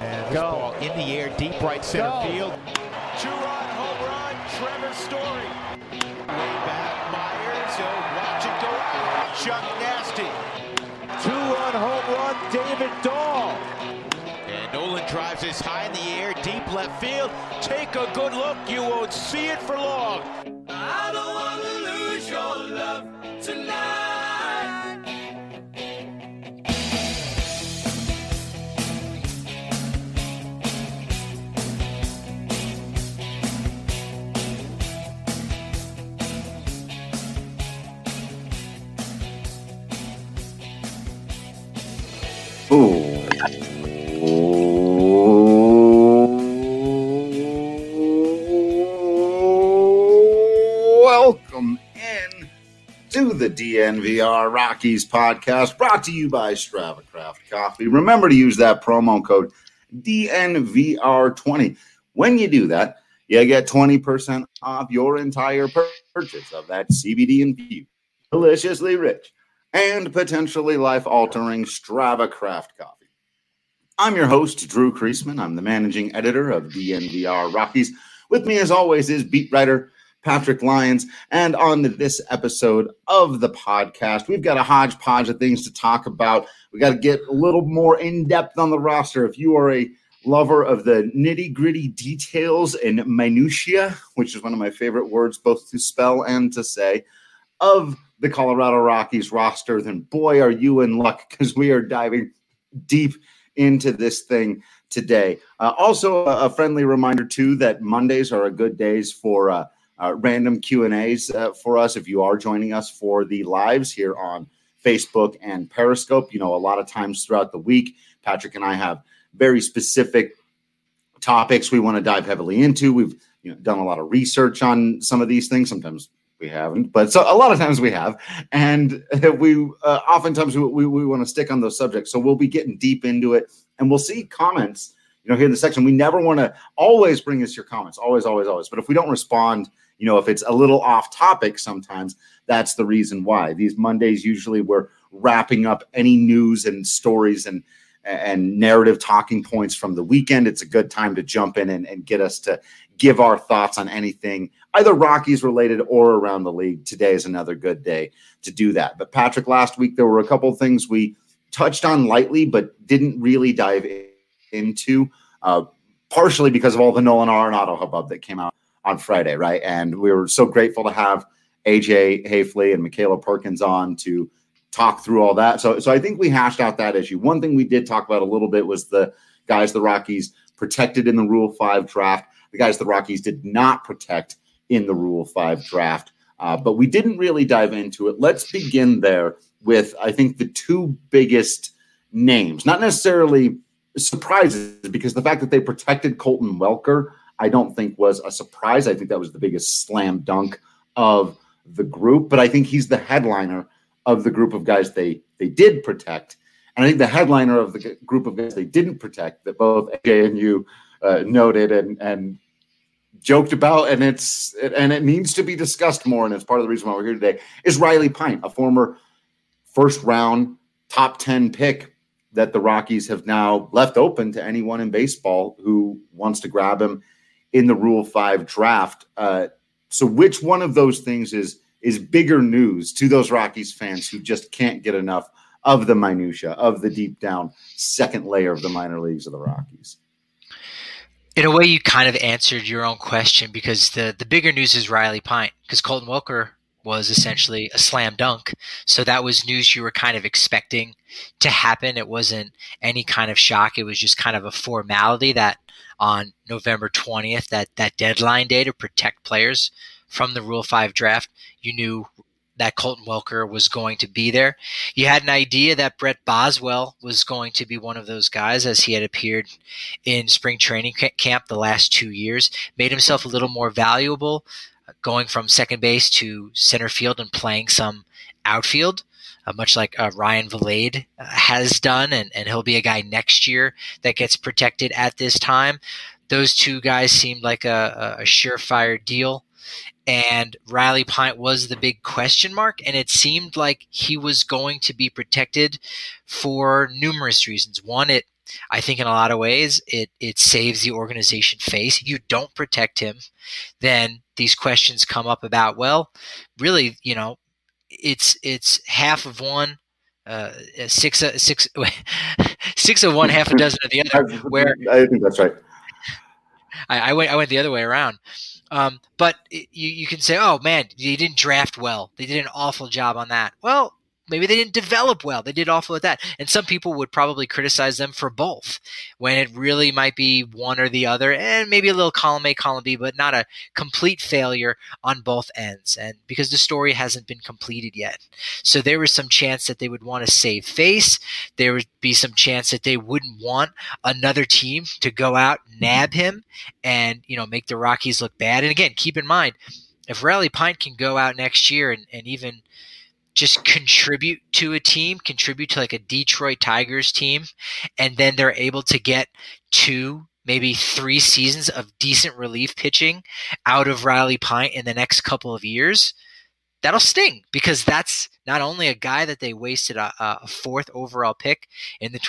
And this ball in the air, deep right center field. Two-run home run, Trevor Story. Way back, Myers, watch it go out. Chuck Nasty. Two-run home run, David Dahl. And Nolan drives this high in the air, deep left field. Take a good look, you won't see it for long. I don't want to lose your love tonight. Welcome in to the DNVR Rockies podcast, brought to you by Strava Craft Coffee. Remember to use that promo code DNVR20. When you do that, you get 20% off your entire purchase of that CBD-infused, deliciously rich, and potentially life-altering Strava Craft Coffee. I'm your host, Drew Kreisman. I'm the managing editor of DNVR Rockies. With me, as always, is beat writer Patrick Lyons. And on this episode of the podcast, we've got a hodgepodge of things to talk about. We got to get a little more in-depth on the roster. If you are a lover of the nitty-gritty details and minutiae, which is one of my favorite words both to spell and to say, of the Colorado Rockies roster, then boy, are you in luck, because we are diving deep into this thing today. Also, a friendly reminder, too, that Mondays are a good days for random Q&As for us. If you are joining us for the lives here on Facebook and Periscope, you know, a lot of times throughout the week, Patrick and I have very specific topics we want to dive heavily into. We've done a lot of research on some of these things. Sometimes we haven't, but so a lot of times we have. And we oftentimes we want to stick on those subjects. So we'll be getting deep into it, and we'll see comments, here in the section. We never want to always bring us your comments, always. But if we don't respond, if it's a little off topic, sometimes that's the reason why. These Mondays, usually we're wrapping up any news and stories and narrative talking points from the weekend. It's a good time to jump in and get us to give our thoughts on anything, either Rockies related or around the league. Today is another good day to do that. But Patrick, last week, there were a couple of things we touched on lightly, but didn't really dive into, partially because of all the Nolan Arenado hubbub that came out on Friday, right? And we were so grateful to have AJ Hafley and Michaela Perkins on to talk through all that. So I think we hashed out that issue. One thing we did talk about a little bit was the guys the Rockies protected in the Rule 5 draft, the guys the Rockies did not protect in the Rule 5 draft. But we didn't really dive into it. Let's begin there with, I think, the two biggest names, not necessarily surprises, because the fact that they protected Colton Welker, I don't think was a surprise. I think that was the biggest slam dunk of the group. But I think he's the headliner of the group of guys they did protect. And I think the headliner of the group of guys they didn't protect, that both AJ and you noted and joked about, and it needs to be discussed more, and it's part of the reason why we're here today, is Riley Pint, a former first-round top 10 pick that the Rockies have now left open to anyone in baseball who wants to grab him in the Rule 5 draft. So which one of those things is bigger news to those Rockies fans who just can't get enough of the minutia, of the deep down second layer of the minor leagues of the Rockies? In a way, you kind of answered your own question, because the bigger news is Riley Pint, because Colton Welker was essentially a slam dunk. So that was news you were kind of expecting to happen. It wasn't any kind of shock. It was just kind of a formality that on November 20th, that deadline day to protect players from the Rule 5 draft, you knew that Colton Welker was going to be there. You had an idea that Brett Boswell was going to be one of those guys, as he had appeared in spring training camp the last 2 years, made himself a little more valuable, going from second base to center field and playing some outfield, much like Ryan Vilade has done, and he'll be a guy next year that gets protected at this time. Those two guys seemed like a surefire deal. And Riley Pint was the big question mark, and it seemed like he was going to be protected for numerous reasons. One, it I think in a lot of ways it saves the organization face. You don't protect him, then these questions come up about, well, really, it's half of one, six of one, half a dozen of the other. Where I think that's right. I went the other way around. But you can say, oh man, they didn't draft well. They did an awful job on that. Well, maybe they didn't develop well. They did awful at that. And some people would probably criticize them for both, when it really might be one or the other, and maybe a little column A, column B, but not a complete failure on both ends. And because the story hasn't been completed yet. So there was some chance that they would want to save face. There would be some chance that they wouldn't want another team to go out, nab him, and make the Rockies look bad. And again, keep in mind, if Riley Pint can go out next year and even just contribute to a team, contribute to like a Detroit Tigers team, and then they're able to get 2, maybe 3 seasons of decent relief pitching out of Riley Pint in the next couple of years, that'll sting, because that's not only a guy that they wasted a 4th overall pick in the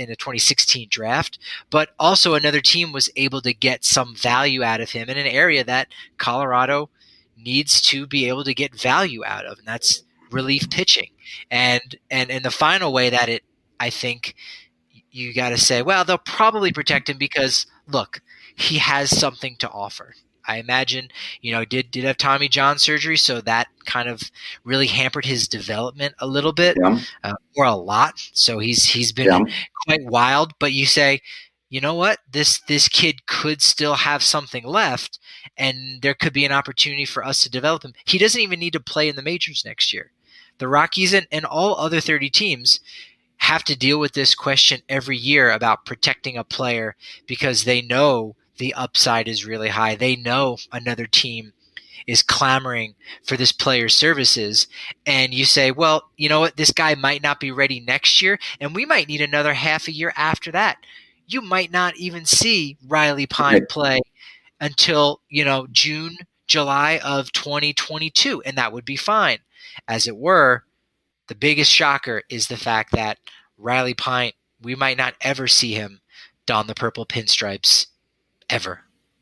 2016 draft, but also another team was able to get some value out of him in an area that Colorado needs to be able to get value out of, and that's relief pitching. And the final way that I think you got to say, well, they'll probably protect him because, look, he has something to offer. I imagine, did have Tommy John surgery, so that kind of really hampered his development a little bit, or a lot. So he's been quite wild. But you say, you know what, this kid could still have something left, and there could be an opportunity for us to develop him. He doesn't even need to play in the majors next year. The Rockies and all other 30 teams have to deal with this question every year about protecting a player, because they know the upside is really high. They know another team is clamoring for this player's services. And you say, well, you know what? This guy might not be ready next year, and we might need another half a year after that. You might not even see Riley Pint play until, June, July of 2022, and that would be fine. As it were, the biggest shocker is the fact that Riley Pint, we might not ever see him don the purple pinstripes ever.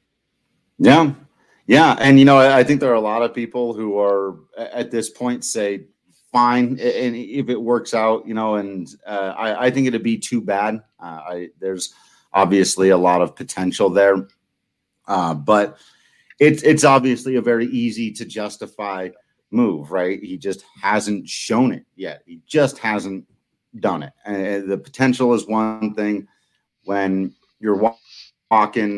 Yeah. Yeah. And, I think there are a lot of people who are at this point say, fine. And if it works out, and I think it'd be too bad. There's obviously a lot of potential there. But it's obviously a very easy to justify move, right? He just hasn't shown it yet. He just hasn't done it. And the potential is one thing. When you're walking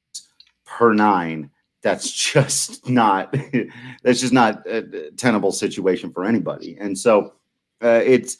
per 9, that's just not a tenable situation for anybody. And so it's,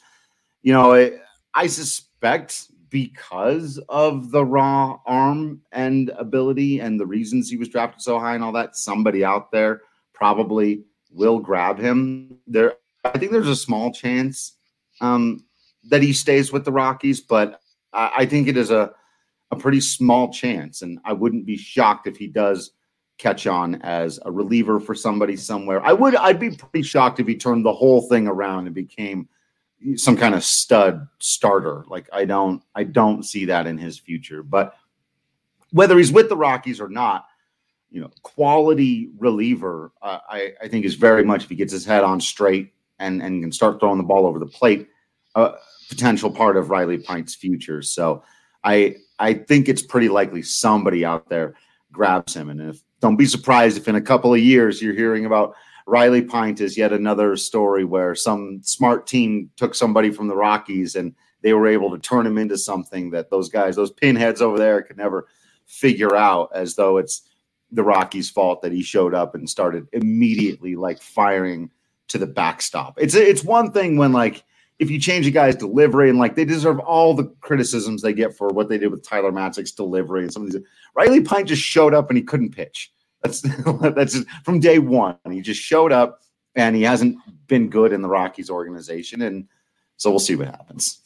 I suspect, because of the raw arm and ability and the reasons he was drafted so high and all that, somebody out there probably will grab him. I think there's a small chance that he stays with the Rockies, but I think it is a pretty small chance, and I wouldn't be shocked if he does catch on as a reliever for somebody somewhere. I'd be pretty shocked if he turned the whole thing around and became some kind of stud starter. Like I don't see that in his future. But whether he's with the Rockies or not, quality reliever, I think is very much, if he gets his head on straight and can start throwing the ball over the plate, potential part of Riley Pint's future. So I think it's pretty likely somebody out there grabs him. And don't be surprised if in a couple of years you're hearing about Riley Pint as yet another story where some smart team took somebody from the Rockies and they were able to turn him into something that those pinheads over there could never figure out, as though it's the Rockies' fault that he showed up and started immediately firing to the backstop. It's one thing when if you change a guy's delivery and they deserve all the criticisms they get for what they did with Tyler Matzek's delivery and some of these. Riley Pint just showed up and he couldn't pitch. That's just, from day one. He just showed up and he hasn't been good in the Rockies organization, and so we'll see what happens.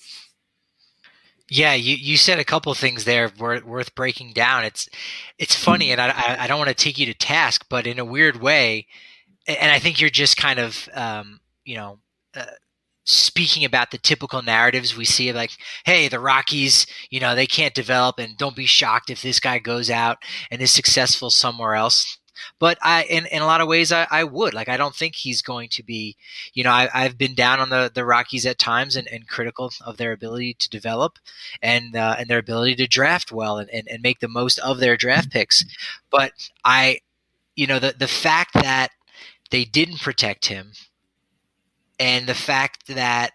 Yeah, you said a couple of things there worth breaking down. It's funny, and I don't want to take you to task, but in a weird way, and I think you're just kind of speaking about the typical narratives we see, like, hey, the Rockies, they can't develop, and don't be shocked if this guy goes out and is successful somewhere else. But in a lot of ways, I would. Like, I don't think he's going to be, I've been down on the Rockies at times and critical of their ability to develop and their ability to draft well and make the most of their draft picks. But the fact that they didn't protect him, and the fact that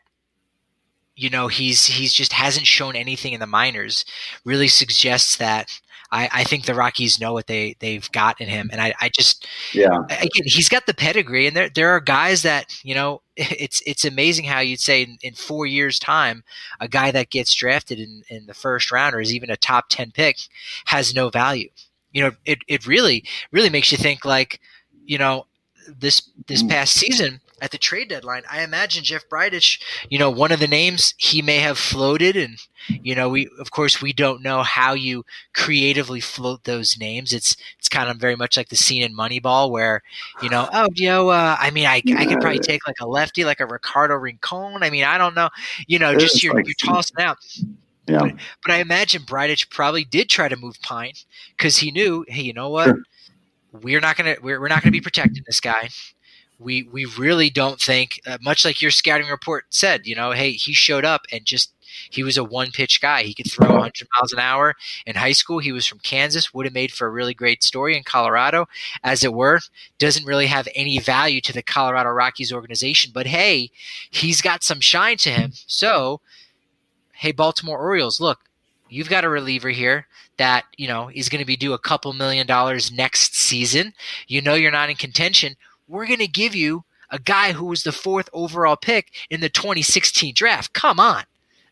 he's just hasn't shown anything in the minors really suggests that I think the Rockies know what they've got in him. And again, he's got the pedigree, and there are guys that, it's amazing how you'd say in 4 years' time, a guy that gets drafted in the first round or is even a top 10 pick has no value. It really, really makes you think, like, this past season at the trade deadline, I imagine Jeff Bridich, one of the names he may have floated, and we don't know how you creatively float those names. It's kind of very much like the scene in Moneyball where, I could probably take like a lefty, like a Ricardo Rincon. I mean, I don't know, just you're tossing out. Yeah. But I imagine Bridich probably did try to move Pine because he knew, hey, you know what? Sure. We're not gonna be protecting this guy. We really don't think, much like your scouting report said, hey, he showed up and he was a one-pitch guy. He could throw 100 miles an hour in high school. He was from Kansas, would have made for a really great story in Colorado. As it were, doesn't really have any value to the Colorado Rockies organization. But, hey, he's got some shine to him. So, hey, Baltimore Orioles, look, you've got a reliever here that, is going to be due a couple $1 million next season. You're not in contention. We're going to give you a guy who was the 4th overall pick in the 2016 draft. Come on.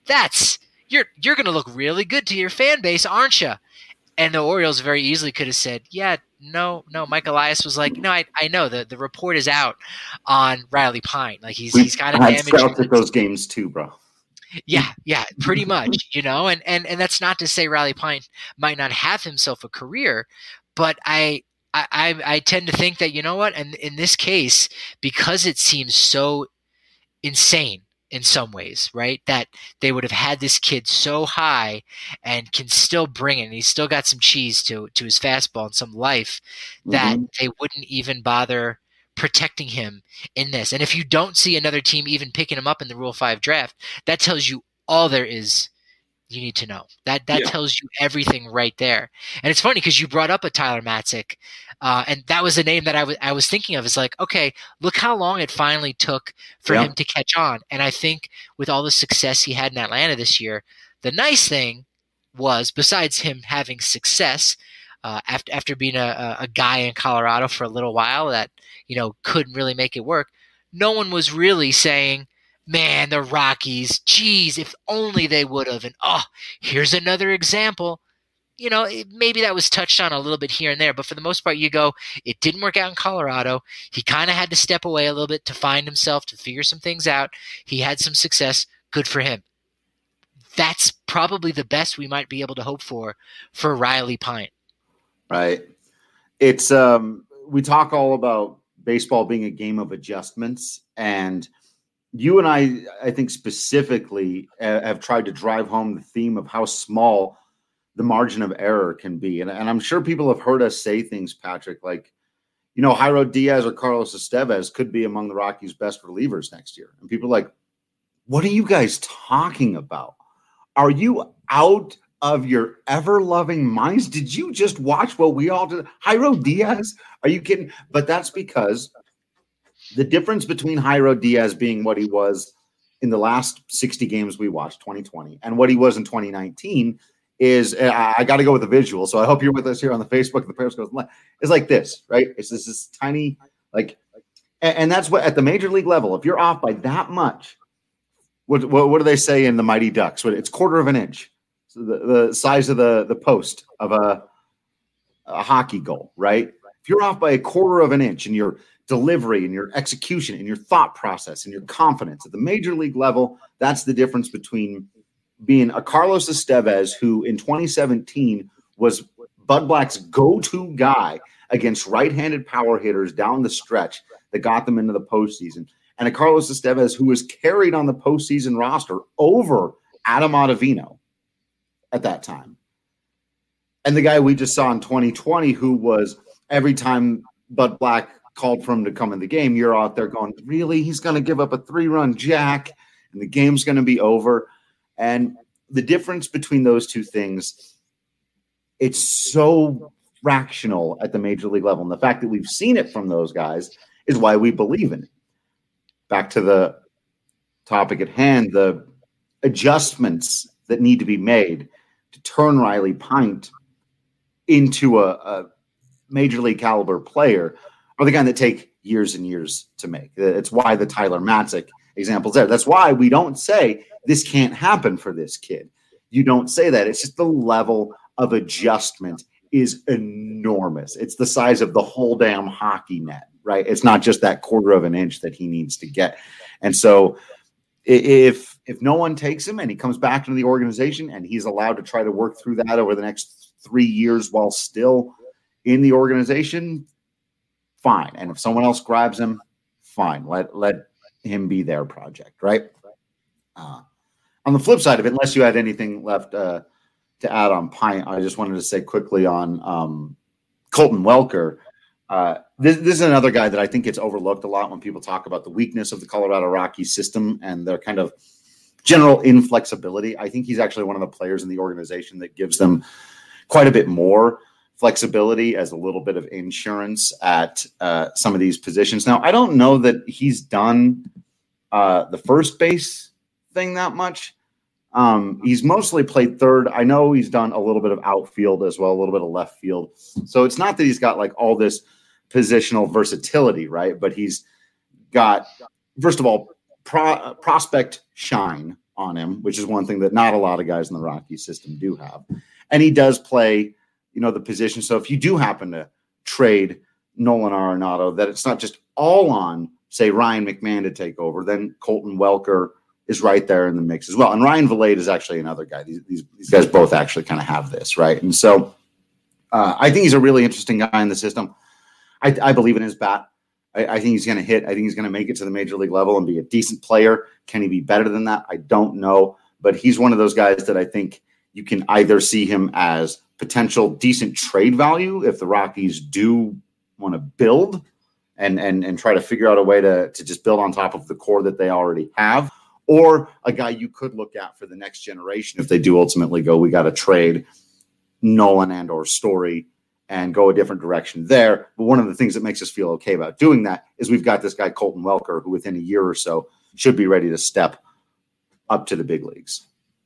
You're going to look really good to your fan base, aren't you? And the Orioles very easily could have said, yeah, no. Mike Elias was like, no, I know the report is out on Riley Pine. Like he's got a damage. Scouts at those games too, bro. Yeah, pretty much, and that's not to say Riley Pine might not have himself a career, but I tend to think that, and in this case, because it seems so insane in some ways, right, that they would have had this kid so high and can still bring it, and he's still got some cheese to his fastball and some life, that they wouldn't even bother protecting him in this. And if you don't see another team even picking him up in the Rule 5 draft, that tells you all there is you need to know. That tells you everything right there. And it's funny because you brought up a Tyler Matzik, and that was the name that I was thinking of. It's like, okay, look how long it finally took for him to catch on. And I think with all the success he had in Atlanta this year, the nice thing was, besides him having success, after being a guy in Colorado for a little while that, couldn't really make it work, no one was really saying, man, the Rockies, geez, if only they would have. And, here's another example. Maybe that was touched on a little bit here and there, but for the most part, you go, it didn't work out in Colorado. He kind of had to step away a little bit to find himself, to figure some things out. He had some success. Good for him. That's probably the best we might be able to hope for Riley Pine. Right. It's we talk all about baseball being a game of adjustments, and you and I think specifically have tried to drive home the theme of how small the margin of error can be. And I'm sure people have heard us say things, Patrick, like, Jairo Diaz or Carlos Estevez could be among the Rockies' best relievers next year. And people are like, what are you guys talking about? Are you out of your ever-loving minds? Did you just watch what we all did? Jairo Diaz? Are you kidding? But that's because the difference between Jairo Diaz being what he was in the last 60 games we watched, 2020, and what he was in 2019 is, I got to go with the visual, so I hope you're with us here on the Facebook, the Periscope. It's like this, right? It's this tiny, and that's what, at the major league level, if you're off by that much, what do they say in the Mighty Ducks? It's quarter of an inch. So the size of the post of a hockey goal, right? If you're off by a quarter of an inch in your delivery and your execution and your thought process and your confidence at the major league level, that's the difference between being a Carlos Estevez, who in 2017 was Bud Black's go-to guy against right-handed power hitters down the stretch that got them into the postseason, and a Carlos Estevez who was carried on the postseason roster over Adam Ottavino at that time. And the guy we just saw in 2020, who was every time Bud Black called for him to come in the game, you're out there going, really? He's going to give up a 3-run jack and the game's going to be over. And the difference between those two things, it's so fractional at the major league level. And the fact that we've seen it from those guys is why we believe in it. Back to the topic at hand, the adjustments that need to be made to turn Riley Pint into a major league caliber player are the kind that take years and years to make. It's why the Tyler Matzik example's there. That's why we don't say this can't happen for this kid. You don't say that. It's just the level of adjustment is enormous. It's the size of the whole damn hockey net, right? It's not just that quarter of an inch that he needs to get. And so if no one takes him and he comes back into the organization and he's allowed to try to work through that over the next 3 years while still in the organization, fine. And if someone else grabs him, fine. Let him be their project, right? On the flip side of it, unless you had anything left to add on Pint, I just wanted to say quickly on Colton Welker. This is another guy that I think gets overlooked a lot when people talk about the weakness of the Colorado Rockies system and their kind of general inflexibility. I think he's actually one of the players in the organization that gives them quite a bit more flexibility as a little bit of insurance at some of these positions. Now, I don't know that he's done the first base thing that much. He's mostly played third. I know he's done a little bit of outfield as well, a little bit of left field. So it's not that he's got like all this positional versatility, right? But he's got, first of all, prospect shine on him, which is one thing that not a lot of guys in the Rockies system do have. And he does play, the position. So if you do happen to trade Nolan Arenado, that it's not just all on, say, Ryan McMahon to take over, then Colton Welker is right there in the mix as well. And Ryan Vilade is actually another guy. These guys both actually kind of have this, right? And so I think he's a really interesting guy in the system. I believe in his bat. I think he's going to hit. I think he's going to make it to the major league level and be a decent player. Can he be better than that? I don't know. But he's one of those guys that I think you can either see him as potential decent trade value if the Rockies do want to build and try to figure out a way to just build on top of the core that they already have, or a guy you could look at for the next generation if they do ultimately go, we got to trade Nolan and or Story and go a different direction there. But one of the things that makes us feel okay about doing that is we've got this guy, Colton Welker, who within a year or so should be ready to step up to the big leagues.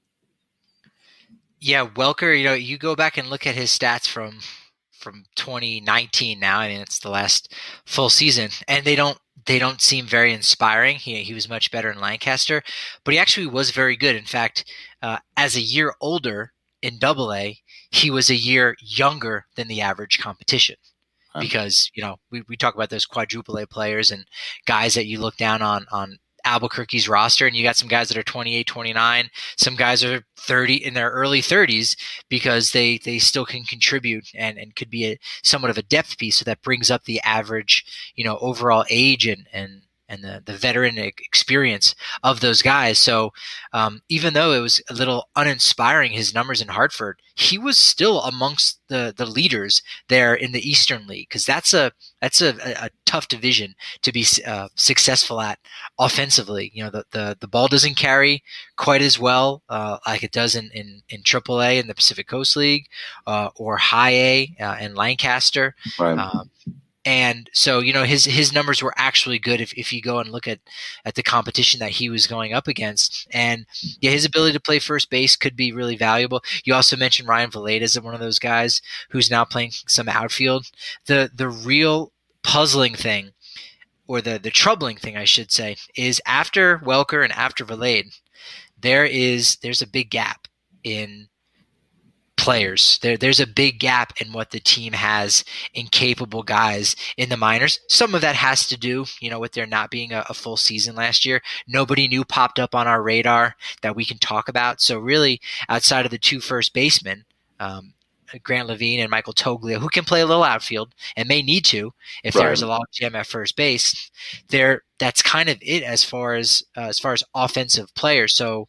Yeah, Welker, you go back and look at his stats from 2019 now. I mean, it's the last full season, and they don't seem very inspiring. He was much better in Lancaster, but he actually was very good. In fact, as a year older in Double-A, he was a year younger than the average competition. Because, we talk about those quadruple A players and guys that you look down on Albuquerque's roster, and you got some guys that are 28, 29, some guys are 30 in their early 30s because they still can contribute and could be somewhat of a depth piece. So that brings up the average, overall age and the veteran experience of those guys. So even though it was a little uninspiring, his numbers in Hartford, he was still amongst the leaders there in the Eastern League, because that's a tough division to be successful at offensively. The ball doesn't carry quite as well like it does in AAA in the Pacific Coast League or High A in Lancaster. Right. And so, his numbers were actually good if you go and look at the competition that he was going up against. And yeah, his ability to play first base could be really valuable. You also mentioned Ryan Vilade as one of those guys who's now playing some outfield. The real puzzling thing, or the troubling thing, I should say, is after Welker and after Vilade, there's a big gap in players. There's a big gap in what the team has in capable guys in the minors. Some of that has to do, with there not being a full season last year. Nobody new popped up on our radar that we can talk about. So really, outside of the two first basemen, Grant Levine and Michael Toglia, who can play a little outfield and may need to if there's a logjam at first base. That's kind of it as far as offensive players. So,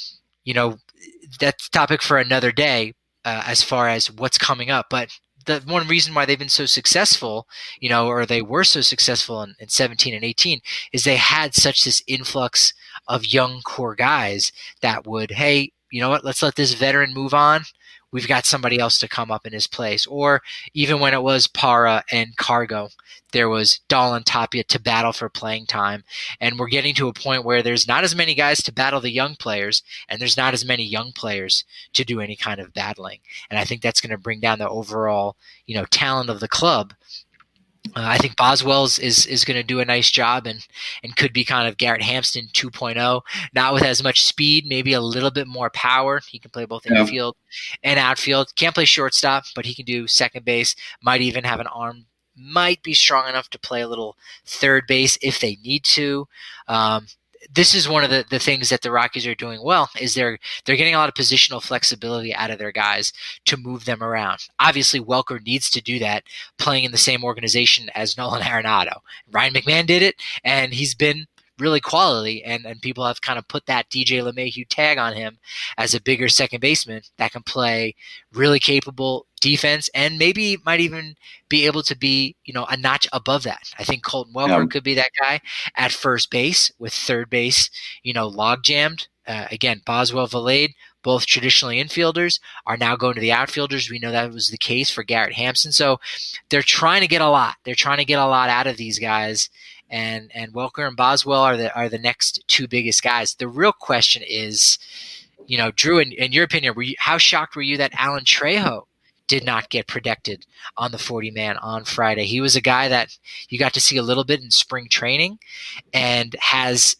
that's a topic for another day as far as what's coming up. But the one reason why they've been so successful, or they were so successful in 17 and 18, is they had such this influx of young core guys that would, hey, you know what, let's let this veteran move on. We've got somebody else to come up in his place. Or even when it was Para and Cargo, there was Dahl and Tapia to battle for playing time. And we're getting to a point where there's not as many guys to battle the young players, and there's not as many young players to do any kind of battling. And I think that's going to bring down the overall, talent of the club. I think Boswell is going to do a nice job and could be kind of Garrett Hampson 2.0, not with as much speed, maybe a little bit more power. He can play both infield and outfield. Can't play shortstop, but he can do second base. Might even have an arm. Might be strong enough to play a little third base if they need to. This is one of the things that the Rockies are doing well, is they're getting a lot of positional flexibility out of their guys to move them around. Obviously, Welker needs to do that playing in the same organization as Nolan Arenado. Ryan McMahon did it, and he's been really quality, and people have kind of put that DJ LeMahieu tag on him as a bigger second baseman that can play really capable defense and maybe might even be able to be, a notch above that. I think Colton Welker could be that guy at first base, with third base, log jammed. Again, Boswell, Valade, both traditionally infielders, are now going to the outfielders. We know that was the case for Garrett Hampson. So they're trying to get a lot. They're trying to get a lot out of these guys. And Welker and Boswell are the next two biggest guys. The real question is, Drew, in your opinion, how shocked were you that Alan Trejo did not get protected on the 40-man on Friday? He was a guy that you got to see a little bit in spring training, and has,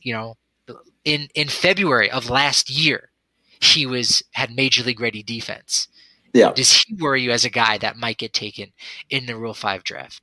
in February of last year, he had major league ready defense. Yeah. Does he worry you as a guy that might get taken in the Rule 5 draft?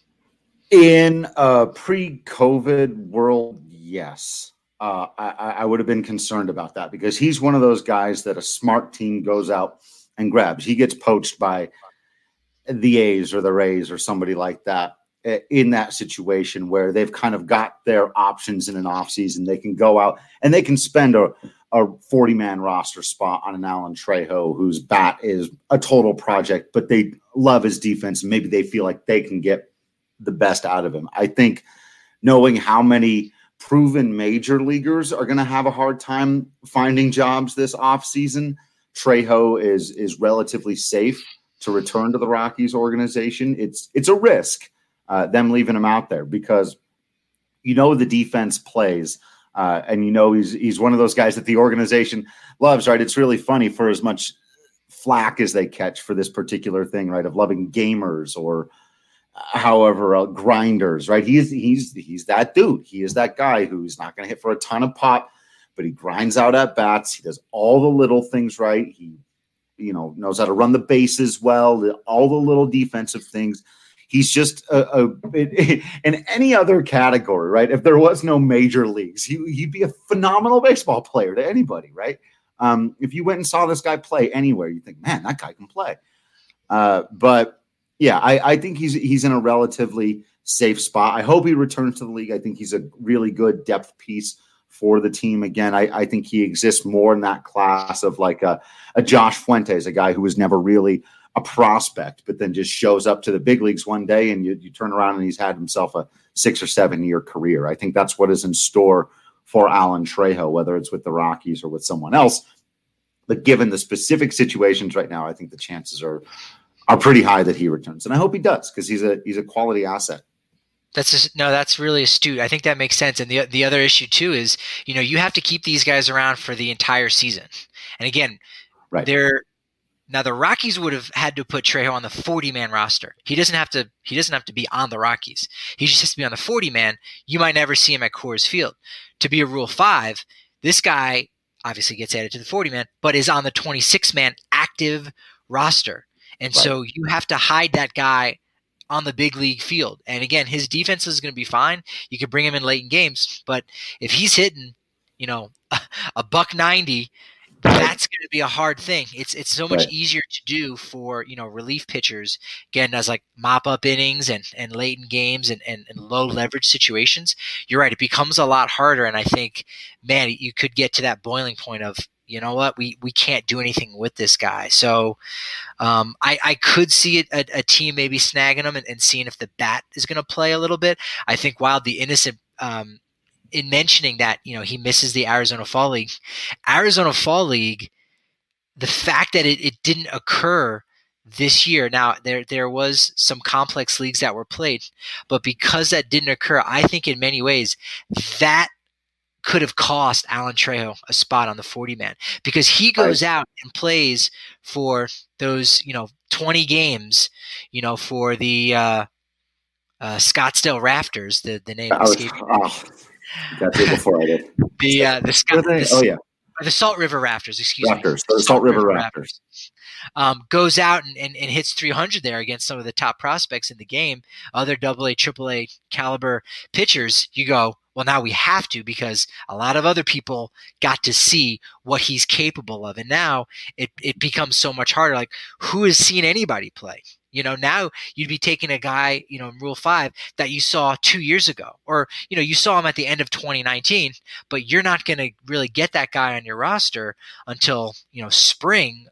In a pre-COVID world, yes. I would have been concerned about that, because he's one of those guys that a smart team goes out and grabs. He gets poached by the A's or the Rays or somebody like that in that situation where they've kind of got their options in an offseason. They can go out and they can spend a 40-man roster spot on an Alan Trejo, whose bat is a total project, but they love his defense, and maybe they feel like they can get the best out of him. I think knowing how many proven major leaguers are going to have a hard time finding jobs this offseason, Trejo is relatively safe to return to the Rockies organization. It's a risk, them leaving him out there, because the defense plays, and he's one of those guys that the organization loves, right? It's really funny, for as much flack as they catch for this particular thing, right, of loving gamers or however grinders, right? He's that dude. He is that guy who's not going to hit for a ton of pop, but he grinds out at bats. He does all the little things right. He knows how to run the bases well, all the little defensive things. He's just in any other category, right? If there was no major leagues, he'd be a phenomenal baseball player to anybody, right? If you went and saw this guy play anywhere, you think, man, that guy can play. But yeah, I think he's in a relatively safe spot. I hope he returns to the league. I think he's a really good depth piece for the team. Again, I think he exists more in that class of like a Josh Fuentes, a guy who was never really a prospect, but then just shows up to the big leagues one day, and you turn around and he's had himself a 6 or 7 year career. I think that's what is in store for Alan Trejo, whether it's with the Rockies or with someone else. But given the specific situations right now, I think the chances are pretty high that he returns, and I hope he does, because he's a quality asset. That's really astute. I think that makes sense. And the other issue too is, you have to keep these guys around for the entire season. And again, right. Now the Rockies would have had to put Trejo on the 40-man roster. He doesn't have to be on the Rockies. He just has to be on the 40-man. You might never see him at Coors Field. To be a Rule 5, this guy obviously gets added to the 40-man, but is on the 26-man active roster. And right. So you have to hide that guy on the big league field. And again, his defense is going to be fine. You could bring him in late in games, but if he's hitting, a $190 that's going to be a hard thing. It's so much Right. easier to do for, relief pitchers, again, as like mop up innings and late in games and low leverage situations. You're right. It becomes a lot harder. And I think, man, you could get to that boiling point of, you know what, we can't do anything with this guy. So I could see a team maybe snagging him and seeing if the bat is going to play a little bit. I think Wild the Innocent, in mentioning that, he misses the Arizona Fall League, the fact that it didn't occur this year. Now there was some complex leagues that were played, but because that didn't occur, I think in many ways that could have cost Alan Trejo a spot on the 40-man, because he goes out and plays for those, 20 games, for the Scottsdale Rafters, the name escaped. That's it before I did. The Salt River Rafters, excuse me. The Salt River Rafters. Goes out and hits 300 there against some of the top prospects in the game, other AA, AAA caliber pitchers. You go, well, now we have to, because a lot of other people got to see what he's capable of. And now it becomes so much harder. Like, who has seen anybody play? Now you'd be taking a guy, in Rule 5 that you saw 2 years ago, or, you saw him at the end of 2019, but you're not going to really get that guy on your roster until, spring,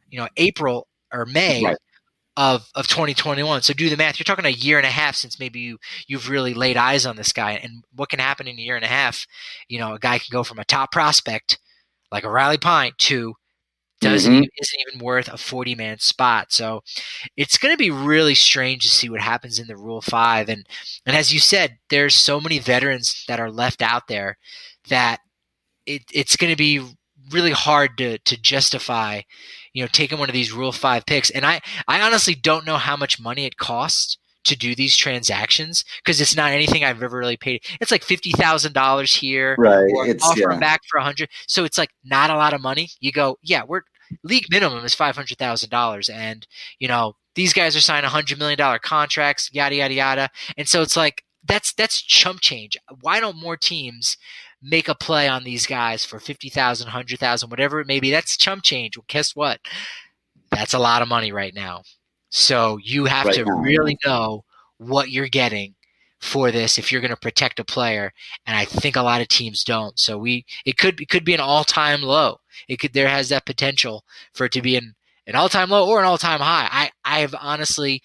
April or May of 2021. So do the math. You're talking a year and a half since maybe you've really laid eyes on this guy. And what can happen in a year and a half? A guy can go from a top prospect like a Riley Pint to isn't even worth a 40-man spot. So it's going to be really strange to see what happens in the Rule 5. And as you said, there's so many veterans that are left out there that it's going to be really hard to justify, taking one of these Rule 5 picks. And I honestly don't know how much money it costs to do these transactions, because it's not anything I've ever really paid. It's like $50,000 here, right? Or offer them back for $100,000. So it's like not a lot of money. You go, yeah, we're league minimum is $500,000, and these guys are signing $100 million contracts, yada yada yada. And so it's like that's chump change. Why don't more teams make a play on these guys for $50,000, $100,000, whatever it may be? That's chump change. Well, guess what? That's a lot of money right now. So you have to really know what you're getting for this if you're going to protect a player, and I think a lot of teams don't. So it could be an all-time low. There has that potential for it to be an all-time low or an all-time high. I have honestly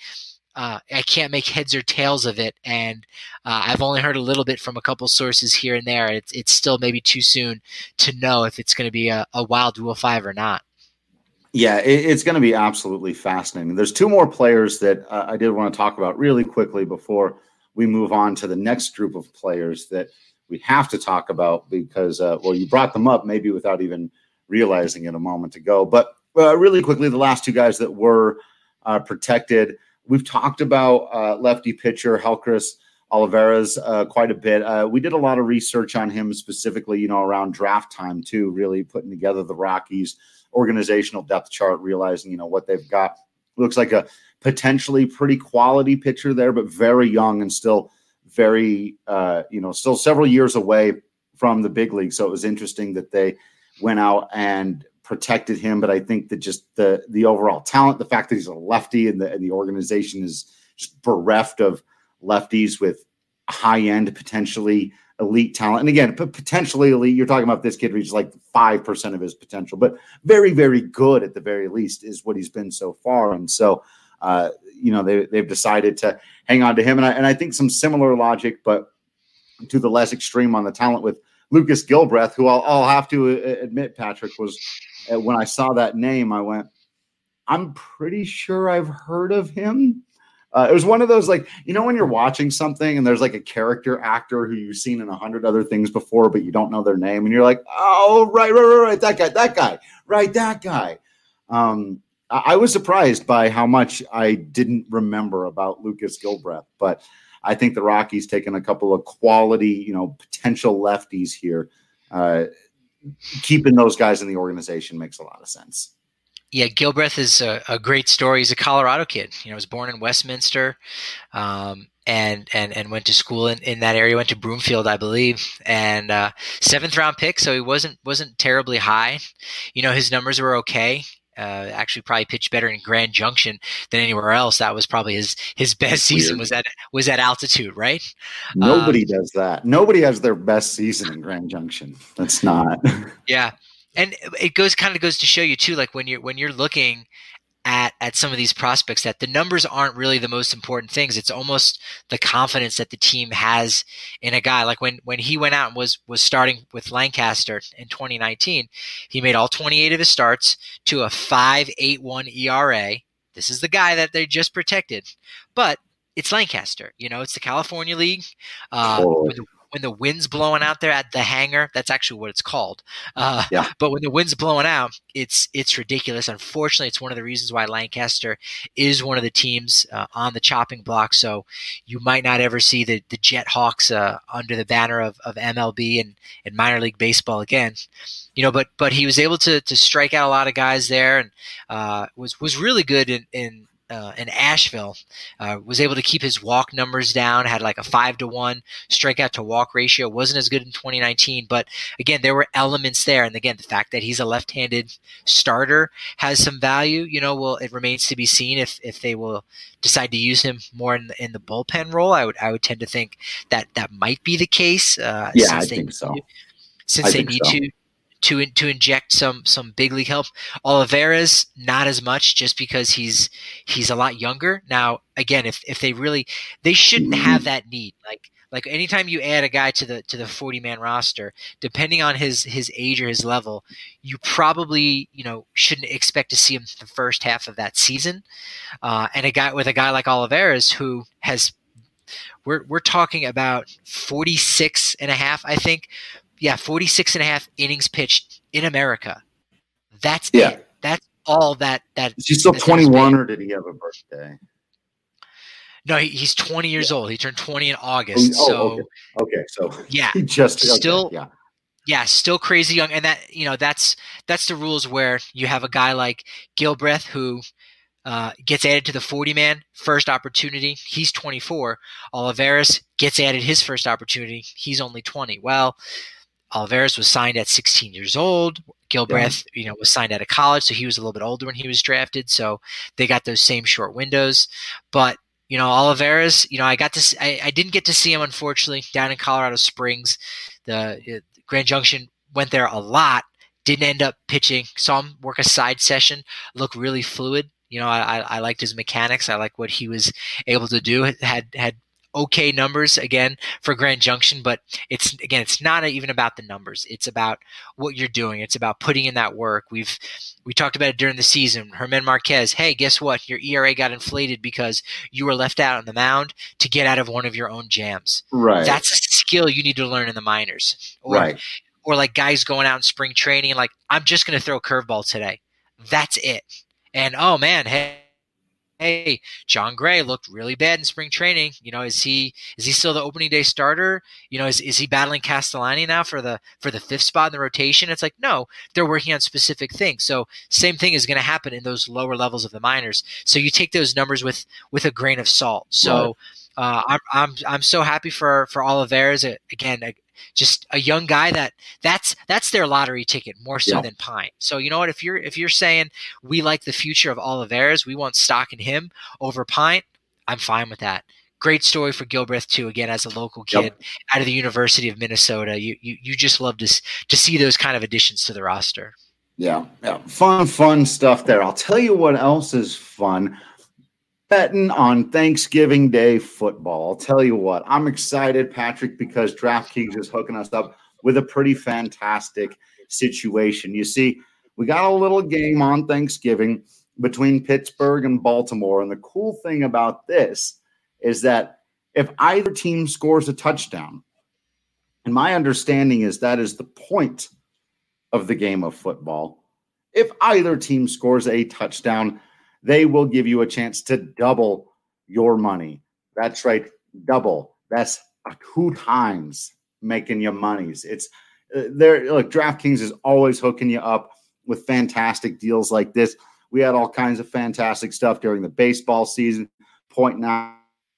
I can't make heads or tails of it, and I've only heard a little bit from a couple sources here and there. It's still maybe too soon to know if it's going to be a Wild Rule 5 or not. Yeah, it's going to be absolutely fascinating. There's two more players that I did want to talk about really quickly before we move on to the next group of players that we have to talk about because, you brought them up maybe without even realizing it a moment ago. But really quickly, the last two guys that were protected, we've talked about lefty pitcher Helcris Olivares quite a bit. We did a lot of research on him specifically, around draft time too, really putting together the Rockies organizational depth chart, realizing, what they've got. Looks like a potentially pretty quality pitcher there, but very young and still very, still several years away from the big league. So it was interesting that they went out and protected him. But I think that just the overall talent, the fact that he's a lefty and the organization is just bereft of lefties with high-end, potentially elite talent. And again, potentially elite, you're talking about this kid reaches like 5% of his potential, but very, very good at the very least is what he's been so far. And so, they've decided to hang on to him. And I think some similar logic, but to the less extreme on the talent with Lucas Gilbreth, who I'll have to admit, Patrick, was when I saw that name, I went, I'm pretty sure I've heard of him. It was one of those, like, when you're watching something and there's like a character actor who you've seen in 100 other things before, but you don't know their name. And you're like, oh, right. That guy. Right. That guy. I was surprised by how much I didn't remember about Lucas Gilbreth, but I think the Rockies taking a couple of quality, potential lefties here, keeping those guys in the organization makes a lot of sense. Yeah, Gilbreth is a great story. He's a Colorado kid. He was born in Westminster. and went to school in that area. Went to Broomfield, I believe, and 7th round pick. So he wasn't terribly high. His numbers were okay. Actually, probably pitched better in Grand Junction than anywhere else. That was probably his best season. Was at altitude, right? Nobody does that. Nobody has their best season in Grand Junction. That's not. Yeah, and it goes to show you too, like when you're looking at some of these prospects, that the numbers aren't really the most important things. It's almost the confidence that the team has in a guy. Like when he went out and was starting with Lancaster in 2019, he made all 28 of his starts to a 5.81 ERA. This is the guy that they just protected, but it's Lancaster. It's the California League. When the wind's blowing out there at the hangar, that's actually what it's called. Yeah. But when the wind's blowing out, it's ridiculous. Unfortunately, it's one of the reasons why Lancaster is one of the teams on the chopping block. So you might not ever see the Jet Hawks under the banner of MLB and minor league baseball again. But he was able to strike out a lot of guys there, and was really good in Asheville. Was able to keep his walk numbers down, had like a 5-to-1 strikeout to walk ratio. Wasn't as good in 2019, but again, there were elements there. And again, the fact that he's a left-handed starter has some value. Well, it remains to be seen if they will decide to use him more in the bullpen role. I would tend to think that might be the case. I think so. Since they need to inject some big league help. Olivares, not as much, just because he's a lot younger. Now, again, if they shouldn't have that need. Like anytime you add a guy to the 40-man roster, depending on his age or his level, you probably shouldn't expect to see him the first half of that season. And a guy like Olivares, who has, we're talking about 46 and a half, I think. Yeah, 46 and a half innings pitched in America. That's it. That's all that. Is he still 21, or did he have a birthday? No, he's 20 years old. He turned 20 in August. Okay. So yeah, he just still okay, still crazy young. And that's the rules where you have a guy like Gilbreth who gets added to the 40-man first opportunity. He's 24. Olivares gets added his first opportunity. He's only 20. Well, Olivares was signed at 16 years old. Gilbreth, was signed out of college, so he was a little bit older when he was drafted. So they got those same short windows. But Olivares, I didn't get to see him, unfortunately, down in Colorado Springs. The Grand Junction went there a lot. Didn't end up pitching. Saw him work a side session. Look really fluid. I liked his mechanics. I like what he was able to do. Had okay numbers again for Grand Junction, but it's not even about the numbers. It's about what you're doing. It's about putting in that work. We talked about it during the season. Herman Marquez, hey, guess what? Your ERA got inflated because you were left out on the mound to get out of one of your own jams. Right. That's a skill you need to learn in the minors. Right. Or like guys going out in spring training and like, I'm just going to throw a curveball today. That's it. And oh man, hey, John Gray looked really bad in spring training. Is he still the opening day starter? Is he battling Castellani now for the 5th spot in the rotation? It's like, no, they're working on specific things. So same thing is going to happen in those lower levels of the minors. So you take those numbers with a grain of salt. So I'm so happy for Olivares. Again, just a young guy that's their lottery ticket more so than Pine. So you know what? If you're saying we like the future of Olivares, we want stock in him over Pine, I'm fine with that. Great story for Gilbreth too. Again, as a local kid out of the University of Minnesota, you just love to see those kind of additions to the roster. Yeah, fun stuff there. I'll tell you what else is fun. Betting on Thanksgiving Day football. I'll tell you what, I'm excited, Patrick, because DraftKings is hooking us up with a pretty fantastic situation. You see, we got a little game on Thanksgiving between Pittsburgh and Baltimore, and the cool thing about this is that if either team scores a touchdown, and my understanding is that is the point of the game of football, if either team scores a touchdown, they will give you a chance to double your money. That's right, double. That's 2 times making your monies. It's there. Look, DraftKings is always hooking you up with fantastic deals like this. We had all kinds of fantastic stuff during the baseball season, pointing out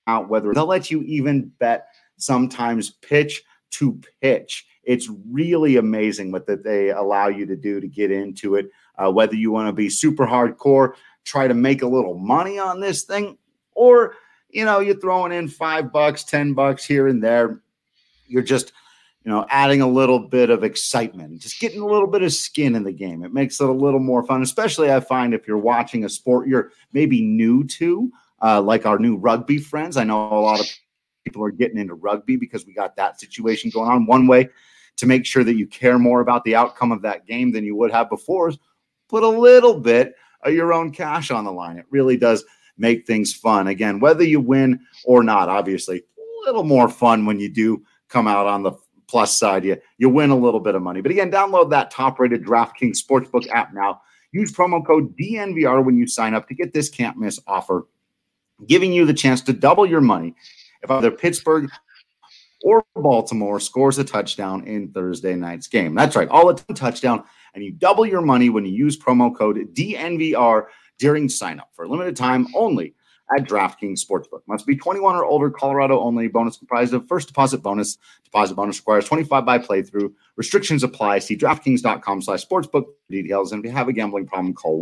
out, whether they'll let you even bet sometimes pitch to pitch. It's really amazing what that they allow you to do to get into it. Whether you want to be super hardcore, try to make a little money on this thing, or, you're throwing in $5, $10 here and there. You're just, adding a little bit of excitement, just getting a little bit of skin in the game. It makes it a little more fun, especially I find if you're watching a sport you're maybe new to, like our new rugby friends. I know a lot of people are getting into rugby because we got that situation going on. One way to make sure that you care more about the outcome of that game than you would have before is put a little bit of your own cash on the line. It really does make things fun. Again, whether you win or not, obviously, a little more fun when you do come out on the plus side. You win a little bit of money. But again, download that top-rated DraftKings Sportsbook app now. Use promo code DNVR when you sign up to get this can't-miss offer, giving you the chance to double your money if either Pittsburgh or Baltimore scores a touchdown in Thursday night's game. That's right, all a touchdown, and you double your money when you use promo code DNVR during sign-up for a limited time only at DraftKings Sportsbook. Must be 21 or older, Colorado only. Bonus comprised of first deposit bonus. Deposit bonus requires 25 by playthrough. Restrictions apply. See DraftKings.com/sportsbook for details. And if you have a gambling problem, call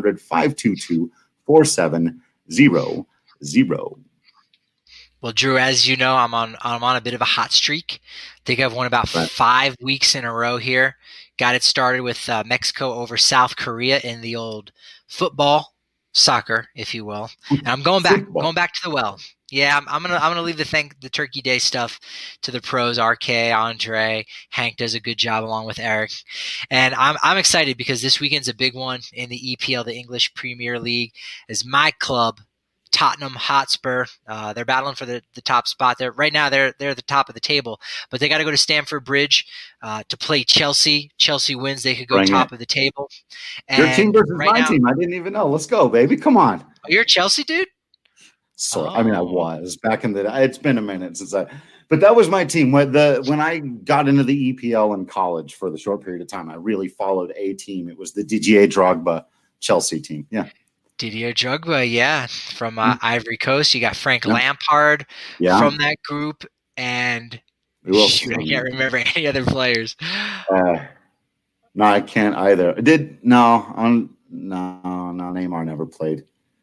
1-800-522-4700. Well, Drew, as you know, I'm on a bit of a hot streak. I think I've won about 5 weeks in a row here. Got it started with Mexico over South Korea in the old soccer, if you will. And I'm going back to the well. Yeah, I'm gonna leave the Turkey Day stuff to the pros. RK, Andre, Hank does a good job along with Eric, and I'm excited because this weekend's a big one in the EPL, the English Premier League, as my club, Tottenham Hotspur. They're battling for the top spot. Right now they're the top of the table, but they got to go to Stamford Bridge to play Chelsea. Chelsea wins, they could go top of the table. And your team versus my team. I didn't even know. Let's go, baby. Come on. Oh, you're a Chelsea dude? So I mean, I was back in the day. It's been a minute since but that was my team. When I got into the EPL in college for the short period of time, I really followed a team. It was the Didier Drogba Chelsea team. Yeah. Didier Drogba, yeah, from Ivory Coast. You got Frank Lampard from that group, and I can't remember any other players. No, I can't either. No, Neymar never played.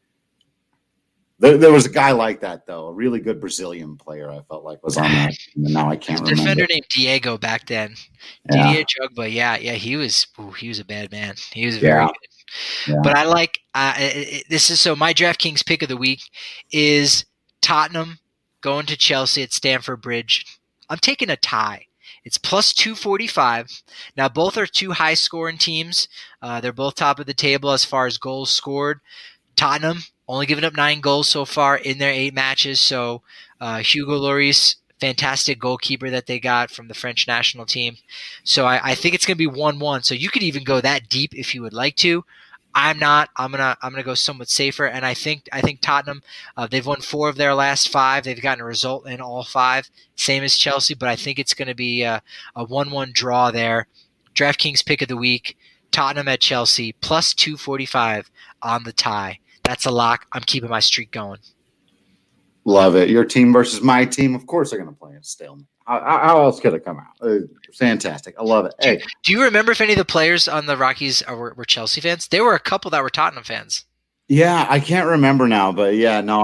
There was a guy like that, though, a really good Brazilian player I felt like was on that team, and now I can't remember. Defender named Diego back then. Didier Drogba, yeah, he was a bad man. He was very good. Yeah. But I like this is so my DraftKings pick of the week is Tottenham going to Chelsea at Stamford Bridge. I'm taking a tie. It's plus 245. Now both are two high scoring teams. They're both top of the table as far as goals scored. Tottenham only giving up 9 goals so far in their 8 matches. So Hugo Lloris, fantastic goalkeeper that they got from the French national team. So I think it's going to be 1-1. So you could even go that deep if you would like to. I'm not. I'm gonna go somewhat safer, and I think Tottenham. They've won 4 of their last 5. They've gotten a result in all 5, same as Chelsea. But I think it's going to be a 1-1 draw there. DraftKings pick of the week: Tottenham at Chelsea plus 245 on the tie. That's a lock. I'm keeping my streak going. Love it. Your team versus my team. Of course, they're going to play a stalemate. How else could it come out? Fantastic. I love it. Hey, do you remember if any of the players on the Rockies were Chelsea fans? There were a couple that were Tottenham fans. Yeah, I can't remember now, but yeah, no,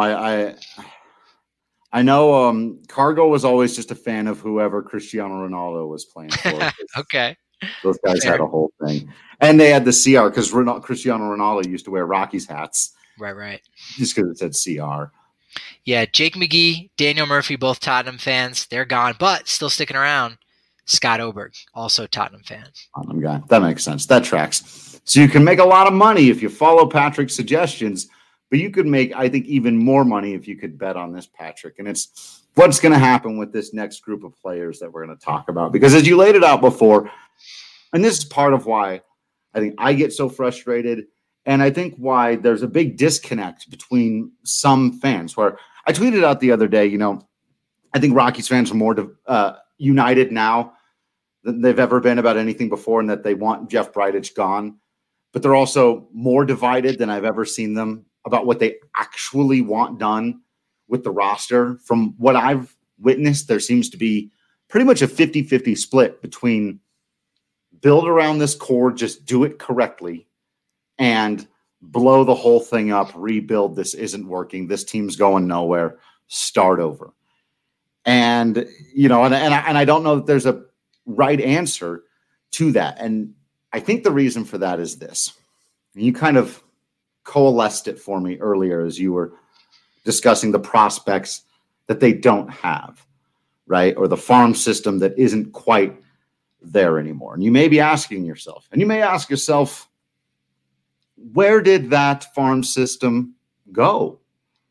I know Cargo was always just a fan of whoever Cristiano Ronaldo was playing for. Okay. Those guys had a whole thing. And they had the CR because Cristiano Ronaldo used to wear Rockies hats. Right. Just because it said CR. Yeah, Jake McGee, Daniel Murphy, both Tottenham fans. They're gone, but still sticking around. Scott Oberg, also Tottenham fan. Tottenham guy. That makes sense. That tracks. So you can make a lot of money if you follow Patrick's suggestions, but you could make, I think, even more money if you could bet on this, Patrick. And it's what's going to happen with this next group of players that we're going to talk about. Because as you laid it out before, and this is part of why I think I get so frustrated, and I think why there's a big disconnect between some fans, where I tweeted out the other day, I think Rockies fans are more united now than they've ever been about anything before, and that they want Jeff Bridich gone. But they're also more divided than I've ever seen them about what they actually want done with the roster. From what I've witnessed, there seems to be pretty much a 50-50 split between build around this core, just do it correctly, and blow the whole thing up, rebuild, this isn't working, this team's going nowhere, start over. And, and I don't know that there's a right answer to that. And I think the reason for that is this. And you kind of coalesced it for me earlier as you were discussing the prospects that they don't have, right? Or the farm system that isn't quite there anymore. And you may be asking yourself, and you may ask yourself, where did that farm system go?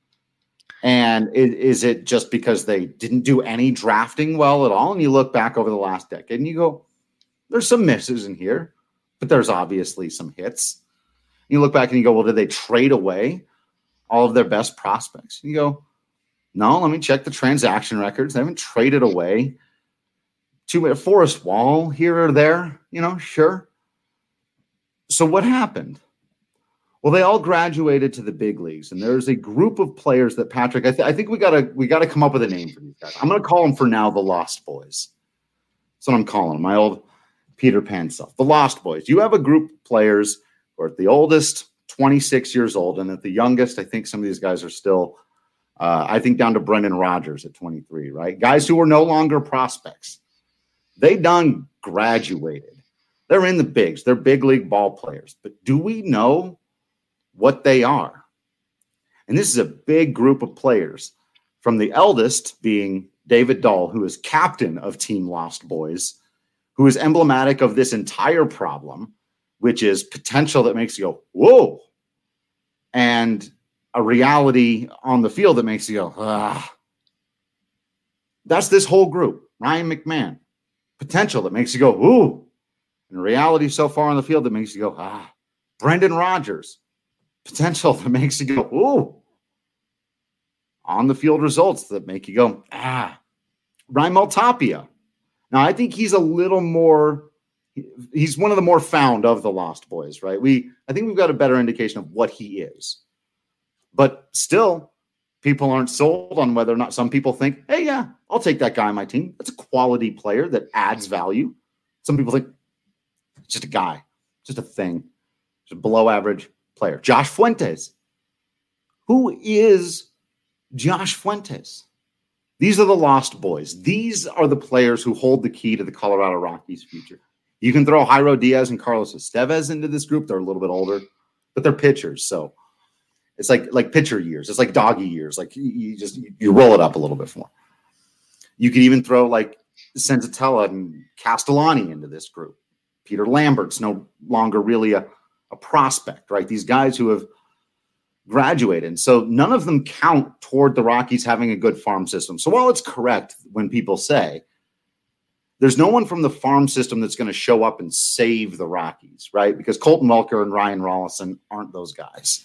And is it just because they didn't do any drafting well at all? And you look back over the last decade and you go, there's some misses in here, but there's obviously some hits. You look back and you go, well, did they trade away all of their best prospects? And you go, no, let me check the transaction records. They haven't traded away to Forrest Wall here or there, sure. So what happened? Well, they all graduated to the big leagues, and there's a group of players that, Patrick, I think we gotta come up with a name for these guys. I'm going to call them for now the Lost Boys. That's what I'm calling them, my old Peter Pan self. The Lost Boys. You have a group of players who are at the oldest 26 years old, and at the youngest, I think some of these guys are still, I think down to Brendan Rodgers at 23, right? Guys who are no longer prospects. They done graduated. They're in the bigs. They're big league ball players. But do we know what they are? And this is a big group of players, from the eldest being David Dahl, who is captain of Team Lost Boys, who is emblematic of this entire problem, which is potential that makes you go, whoa, and a reality on the field that makes you go, ah. That's this whole group. Ryan McMahon, potential that makes you go, ooh, and reality so far on the field that makes you go, ah. Brendan Rodgers, potential that makes you go, ooh. On the field results that make you go, ah. Raimel Tapia. Now, I think he's a little more, he's one of the more found of the Lost Boys, right? I think we've got a better indication of what he is. But still, people aren't sold on whether or not some people think, hey, yeah, I'll take that guy on my team. That's a quality player that adds value. Some people think, it's just a guy, just a thing, just a below average player. Josh Fuentes. Who is Josh Fuentes? These are the Lost Boys. These are the players who hold the key to the Colorado Rockies' future. You can throw Jairo Diaz and Carlos Estevez into this group. They're a little bit older, but they're pitchers. So it's like pitcher years. It's like doggy years. Like you roll it up a little bit more. You could even throw like Senzatella and Castellani into this group. Peter Lambert's no longer really a prospect, right? These guys who have graduated. So none of them count toward the Rockies having a good farm system. So while it's correct when people say there's no one from the farm system that's going to show up and save the Rockies, right? Because Colton Welker and Ryan Rollison aren't those guys.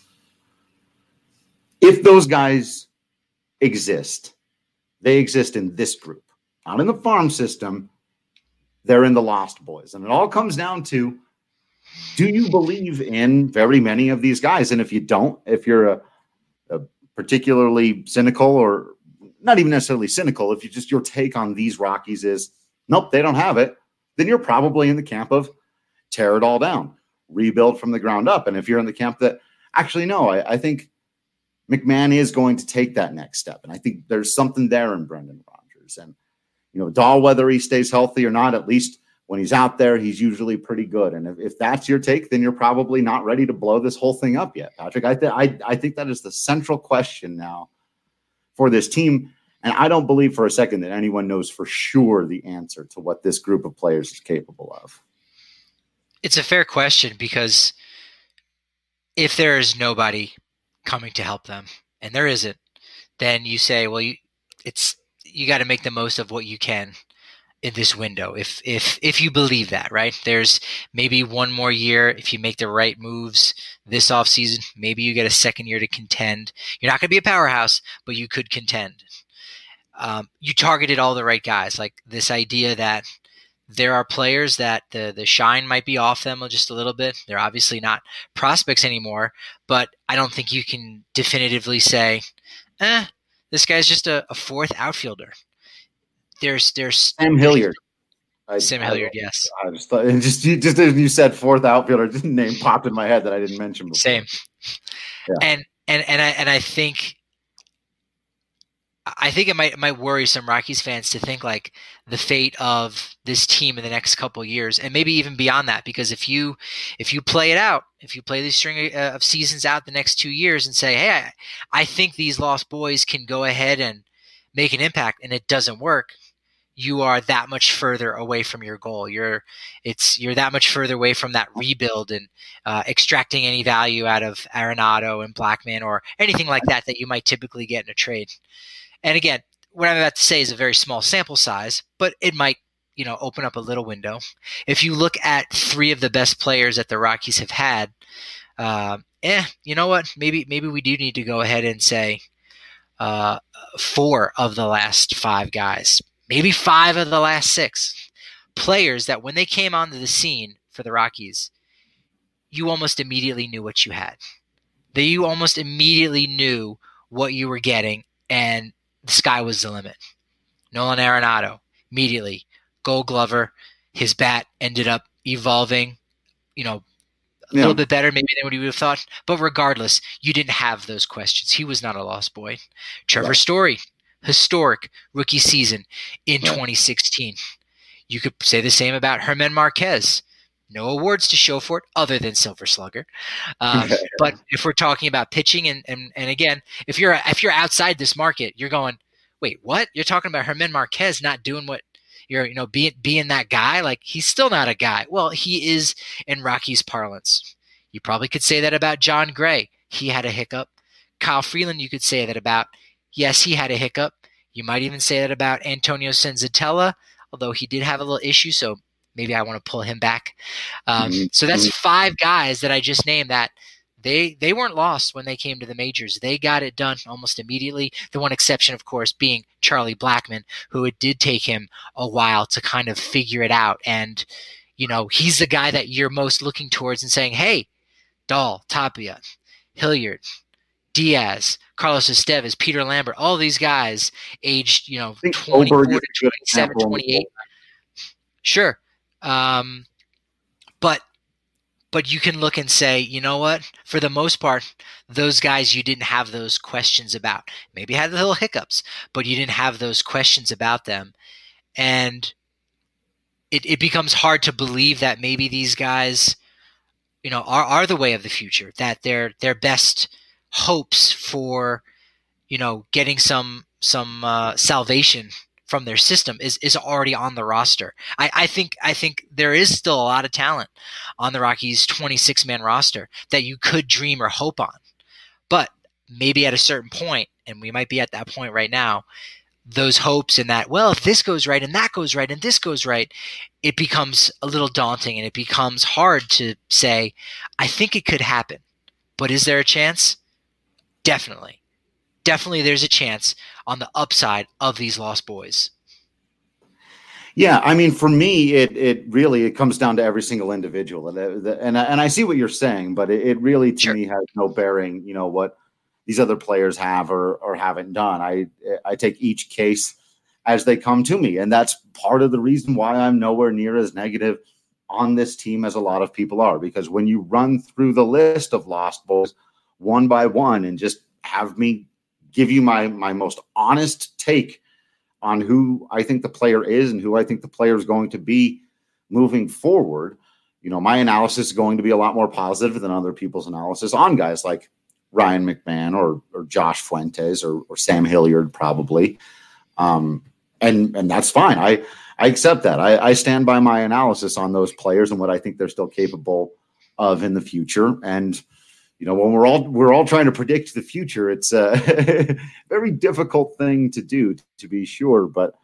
If those guys exist, they exist in this group, not in the farm system. They're in the Lost Boys. And it all comes down to, do you believe in very many of these guys? And if you don't, if you're a particularly cynical, or not even necessarily cynical, if you just, your take on these Rockies is, nope, they don't have it, then you're probably in the camp of tear it all down, rebuild from the ground up. And if you're in the camp that actually, no, I think McMahon is going to take that next step. And I think there's something there in Brendan Rodgers. And, Dahl, whether he stays healthy or not, at least when he's out there, he's usually pretty good. And if that's your take, then you're probably not ready to blow this whole thing up yet, Patrick. I think that is the central question now for this team. And I don't believe for a second that anyone knows for sure the answer to what this group of players is capable of. It's a fair question, because if there is nobody coming to help them, and there isn't, then you say, well, you got to make the most of what you can in this window. If you believe that, right? There's maybe one more year. If you make the right moves this offseason, maybe you get a second year to contend. You're not going to be a powerhouse, but you could contend. You targeted all the right guys. Like this idea that there are players that the shine might be off them just a little bit. They're obviously not prospects anymore, but I don't think you can definitively say, This guy's just a fourth outfielder. There's Sam Hilliard. Sam Hilliard, yes. I just thought, just as you said, fourth outfielder, just name popped in my head that I didn't mention before. Same. Yeah. And I think it might worry some Rockies fans to think like the fate of this team in the next couple of years, and maybe even beyond that. Because if you play it out, if you play this string of seasons out the next 2 years and say, hey, I think these Lost Boys can go ahead and make an impact, and it doesn't work, you are that much further away from your goal. You're that much further away from that rebuild and extracting any value out of Arenado and Blackmon or anything like that you might typically get in a trade. And again, what I'm about to say is a very small sample size, but it might, open up a little window. If you look at 3 of the best players that the Rockies have had, you know what? Maybe we do need to go ahead and say 4 of the last 5 guys. Maybe 5 of the last 6 players that when they came onto the scene for the Rockies, you almost immediately knew what you had. That you almost immediately knew what you were getting, and the sky was the limit. Nolan Arenado, immediately. Gold Glover, his bat ended up evolving, a little bit better maybe than what he would have thought. But regardless, you didn't have those questions. He was not a lost boy. Trevor Story, historic rookie season in 2016. You could say the same about Germán Márquez. No awards to show for it other than Silver Slugger. But if we're talking about pitching and again, if you're outside this market, you're going, wait, what? You're talking about Germán Márquez not doing what you're, being that guy? Like, he's still not a guy. Well, he is in Rockies parlance. You probably could say that about John Gray. He had a hiccup. Kyle Freeland, you could say that about. Yes, he had a hiccup. You might even say that about Antonio Senzatella, although he did have a little issue, so maybe I want to pull him back. So that's 5 guys that I just named that they weren't lost when they came to the majors. They got it done almost immediately. The one exception, of course, being Charlie Blackmon, who it did take him a while to kind of figure it out. And, he's the guy that you're most looking towards and saying, hey, Dahl, Tapia, Hilliard, Diaz, Carlos Estevez, Peter Lambert, all these guys aged, 24 to 27, 28. Sure. But you can look and say, you know what? For the most part, those guys you didn't have those questions about. Maybe had little hiccups, but you didn't have those questions about them. And it becomes hard to believe that maybe these guys, are the way of the future, that their best hopes for, getting some salvation from their system is already on the roster. I think there is still a lot of talent on the Rockies' 26-man roster that you could dream or hope on. But maybe at a certain point, and we might be at that point right now, those hopes and that, well, if this goes right and that goes right and this goes right, it becomes a little daunting and it becomes hard to say, I think it could happen. But is there a chance? Definitely. Definitely there's a chance on the upside of these Lost Boys. Yeah, I mean, for me, it really comes down to every single individual, and I see what you're saying, but it really to me has no bearing, what these other players have or haven't done. I take each case as they come to me, and that's part of the reason why I'm nowhere near as negative on this team as a lot of people are, because when you run through the list of Lost Boys one by one and just have me give you my most honest take on who I think the player is and who I think the player is going to be moving forward, my analysis is going to be a lot more positive than other people's analysis on guys like Ryan McMahon or Josh Fuentes or Sam Hilliard probably. And that's fine. I accept that. I stand by my analysis on those players and what I think they're still capable of in the future. And when we're all trying to predict the future, it's a very difficult thing to do, to be sure. But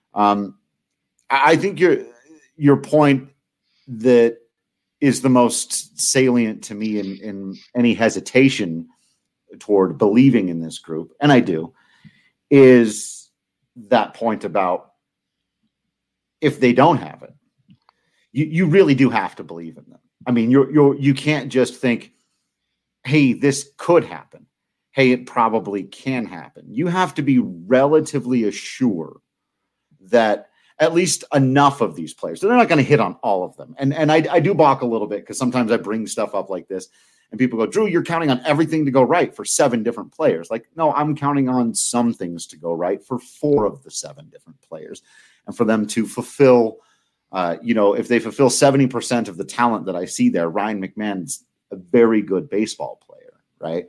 I think your point that is the most salient to me in any hesitation toward believing in this group, and I do, is that point about if they don't have it, you really do have to believe in them. I mean, you can't just think, hey, this could happen. hey, it probably can happen. You have to be relatively assured that at least enough of these players, so they're not going to hit on all of them. And I do balk a little bit because sometimes I bring stuff up like this and people go, Drew, you're counting on everything to go right for 7 different players. Like, no, I'm counting on some things to go right for 4 of the 7 different players. And for them to fulfill, if they fulfill 70% of the talent that I see there, Ryan McMahon's a very good baseball player, right?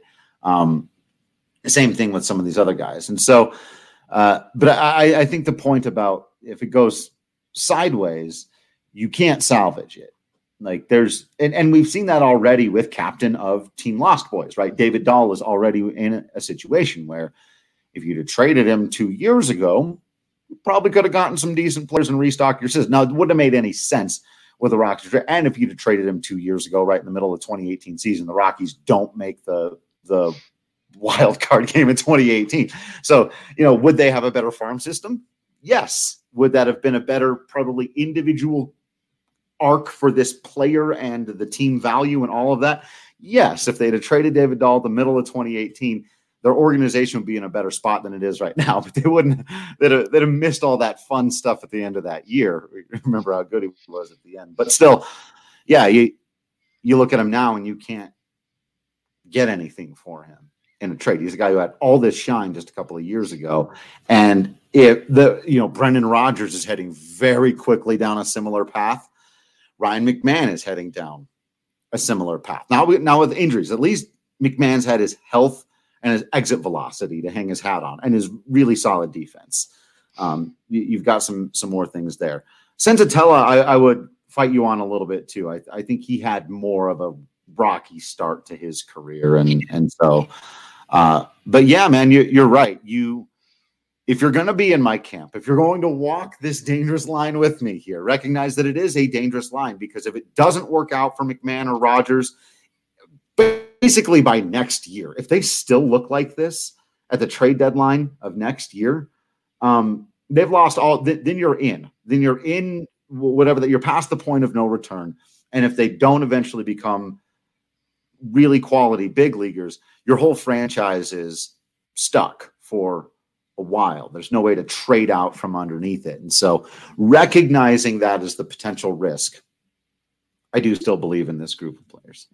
Same thing with some of these other guys. And so, but I think the point about if it goes sideways, you can't salvage it. Like and we've seen that already with captain of Team Lost Boys, right? David Dahl is already in a situation where if you'd have traded him 2 years ago, you probably could have gotten some decent players and restocked your system. Now, it wouldn't have made any sense with the Rockies. And if you'd have traded him 2 years ago, right in the middle of the 2018 season, the Rockies don't make the wild card game in 2018. So, would they have a better farm system? Yes. Would that have been a better, probably individual arc for this player and the team value and all of that? Yes. If they'd have traded David Dahl the middle of 2018, their organization would be in a better spot than it is right now, but they'd have missed all that fun stuff at the end of that year. Remember how good he was at the end, but still, yeah, you look at him now and you can't get anything for him in a trade. He's a guy who had all this shine just a couple of years ago. And Brendan Rodgers is heading very quickly down a similar path. Ryan McMahon is heading down a similar path. Now with injuries, at least McMahon's had his health and his exit velocity to hang his hat on and his really solid defense. You've got some more things there. Senzatella, I would fight you on a little bit too. I think he had more of a rocky start to his career. And so, but yeah, man, you're right. If you're going to be in my camp, if you're going to walk this dangerous line with me here, recognize that it is a dangerous line, because if it doesn't work out for McMahon or Rodgers, basically by next year, if they still look like this at the trade deadline of next year, they've lost all. Then you're in. Then you're in whatever that you're past the point of no return. And if they don't eventually become really quality big leaguers, your whole franchise is stuck for a while. There's no way to trade out from underneath it. And so recognizing that as the potential risk, I do still believe in this group of players.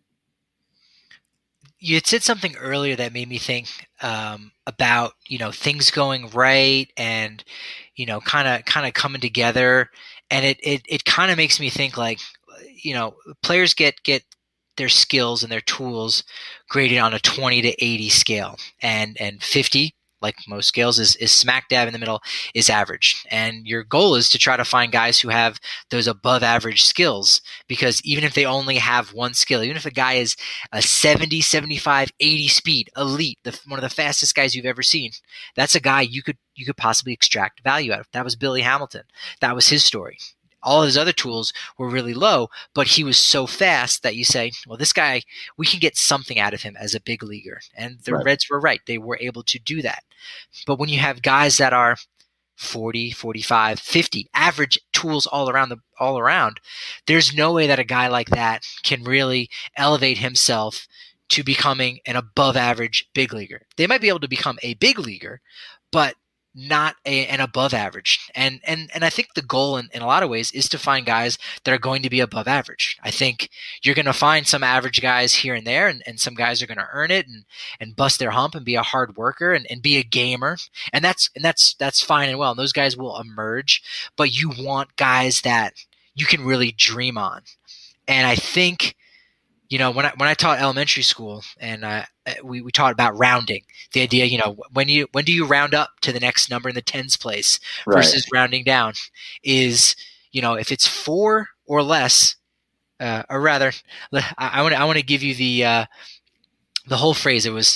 You had said something earlier that made me think about, things going right and, kind of coming together. And it kind of makes me think like, players get their skills and their tools graded on a 20 to 80 scale, and 50, like most scales, is smack dab in the middle, is average. And your goal is to try to find guys who have those above average skills, because even if they only have one skill, even if a guy is a 70, 75, 80 speed, elite, one of the fastest guys you've ever seen, that's a guy you could possibly extract value out of. That was Billy Hamilton. That was his story. All of his other tools were really low, but he was so fast that you say, well, this guy, we can get something out of him as a big leaguer. And the Reds were right. They were able to do that. But when you have guys that are 40, 45, 50, average tools all around, there's no way that a guy like that can really elevate himself to becoming an above average big leaguer. They might be able to become a big leaguer, but not an above average. And I think the goal in a lot of ways is to find guys that are going to be above average. I think you're going to find some average guys here and there, and some guys are going to earn it and bust their hump and be a hard worker and be a gamer. And that's fine and well. And those guys will emerge, but you want guys that you can really dream on. And I think, when I taught elementary school, and we taught about rounding, the idea, when do you round up to the next number in the tens place versus rounding down, is, if it's 4 or less, or rather, I want to give you the whole phrase. It was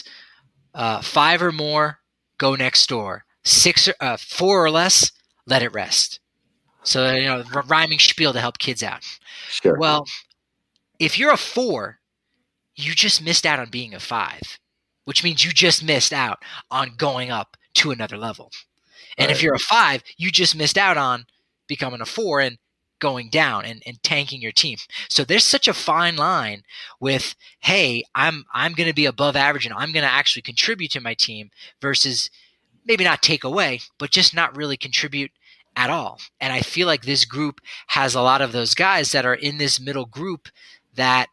5 or more, go next door. 4 or less, let it rest. So rhyming spiel to help kids out. Sure. Well, if you're a 4, you just missed out on being a 5, which means you just missed out on going up to another level. And if you're a 5, you just missed out on becoming a 4. And going down and tanking your team. So there's such a fine line with, hey, I'm going to be above average and I'm going to actually contribute to my team versus maybe not take away, but just not really contribute at all. And I feel like this group has a lot of those guys that are in this middle group that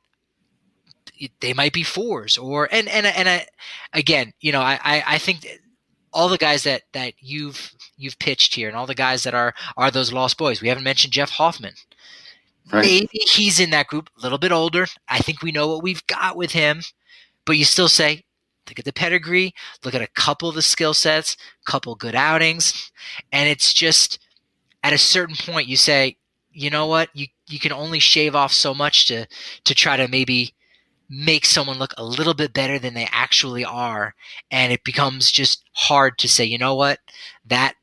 they might be fours or again, you know, I think all the guys that you've pitched here and all the guys that are those lost boys. We haven't mentioned Jeff Hoffman. Right. Maybe he's in that group, a little bit older. I think we know what we've got with him, but you still say, look at the pedigree, look at a couple of the skill sets, couple good outings, and it's just at a certain point you say, you know what, you can only shave off so much to try to maybe make someone look a little bit better than they actually are, and it becomes just hard to say, you know what, that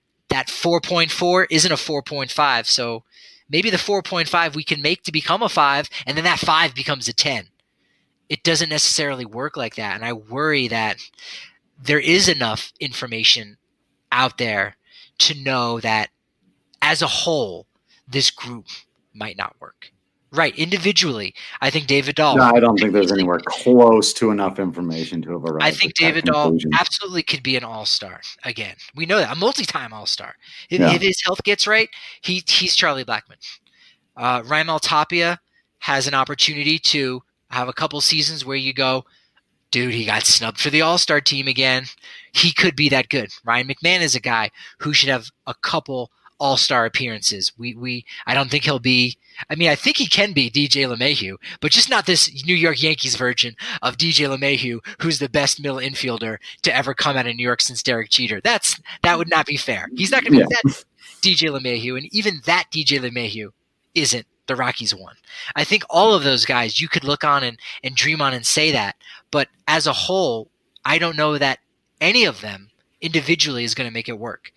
4.4 isn't a 4.5, so maybe the 4.5 we can make to become a 5, and then that 5 becomes a 10. It doesn't necessarily work like that, and I worry that there is enough information out there to know that as a whole, this group might not work. Right, individually, I think David Dahl. No, I don't think there's anywhere close to enough information to have arrived. I think David Dahl absolutely could be an all-star. Again, we know that, a multi-time all-star. If his health gets right, he's Charlie Blackmon. Raimel Tapia has an opportunity to have a couple seasons where you go, dude, he got snubbed for the all-star team again. He could be that good. Ryan McMahon is a guy who should have a couple all-star appearances. I don't think he'll be. I mean, I think he can be DJ LeMahieu, but just not this New York Yankees version of DJ LeMahieu, who's the best middle infielder to ever come out of New York since Derek Jeter. That would not be fair. He's not going to be that DJ LeMahieu, and even that DJ LeMahieu isn't the Rockies one. I think all of those guys you could look on and dream on and say that, but as a whole, I don't know that any of them individually is going to make it work.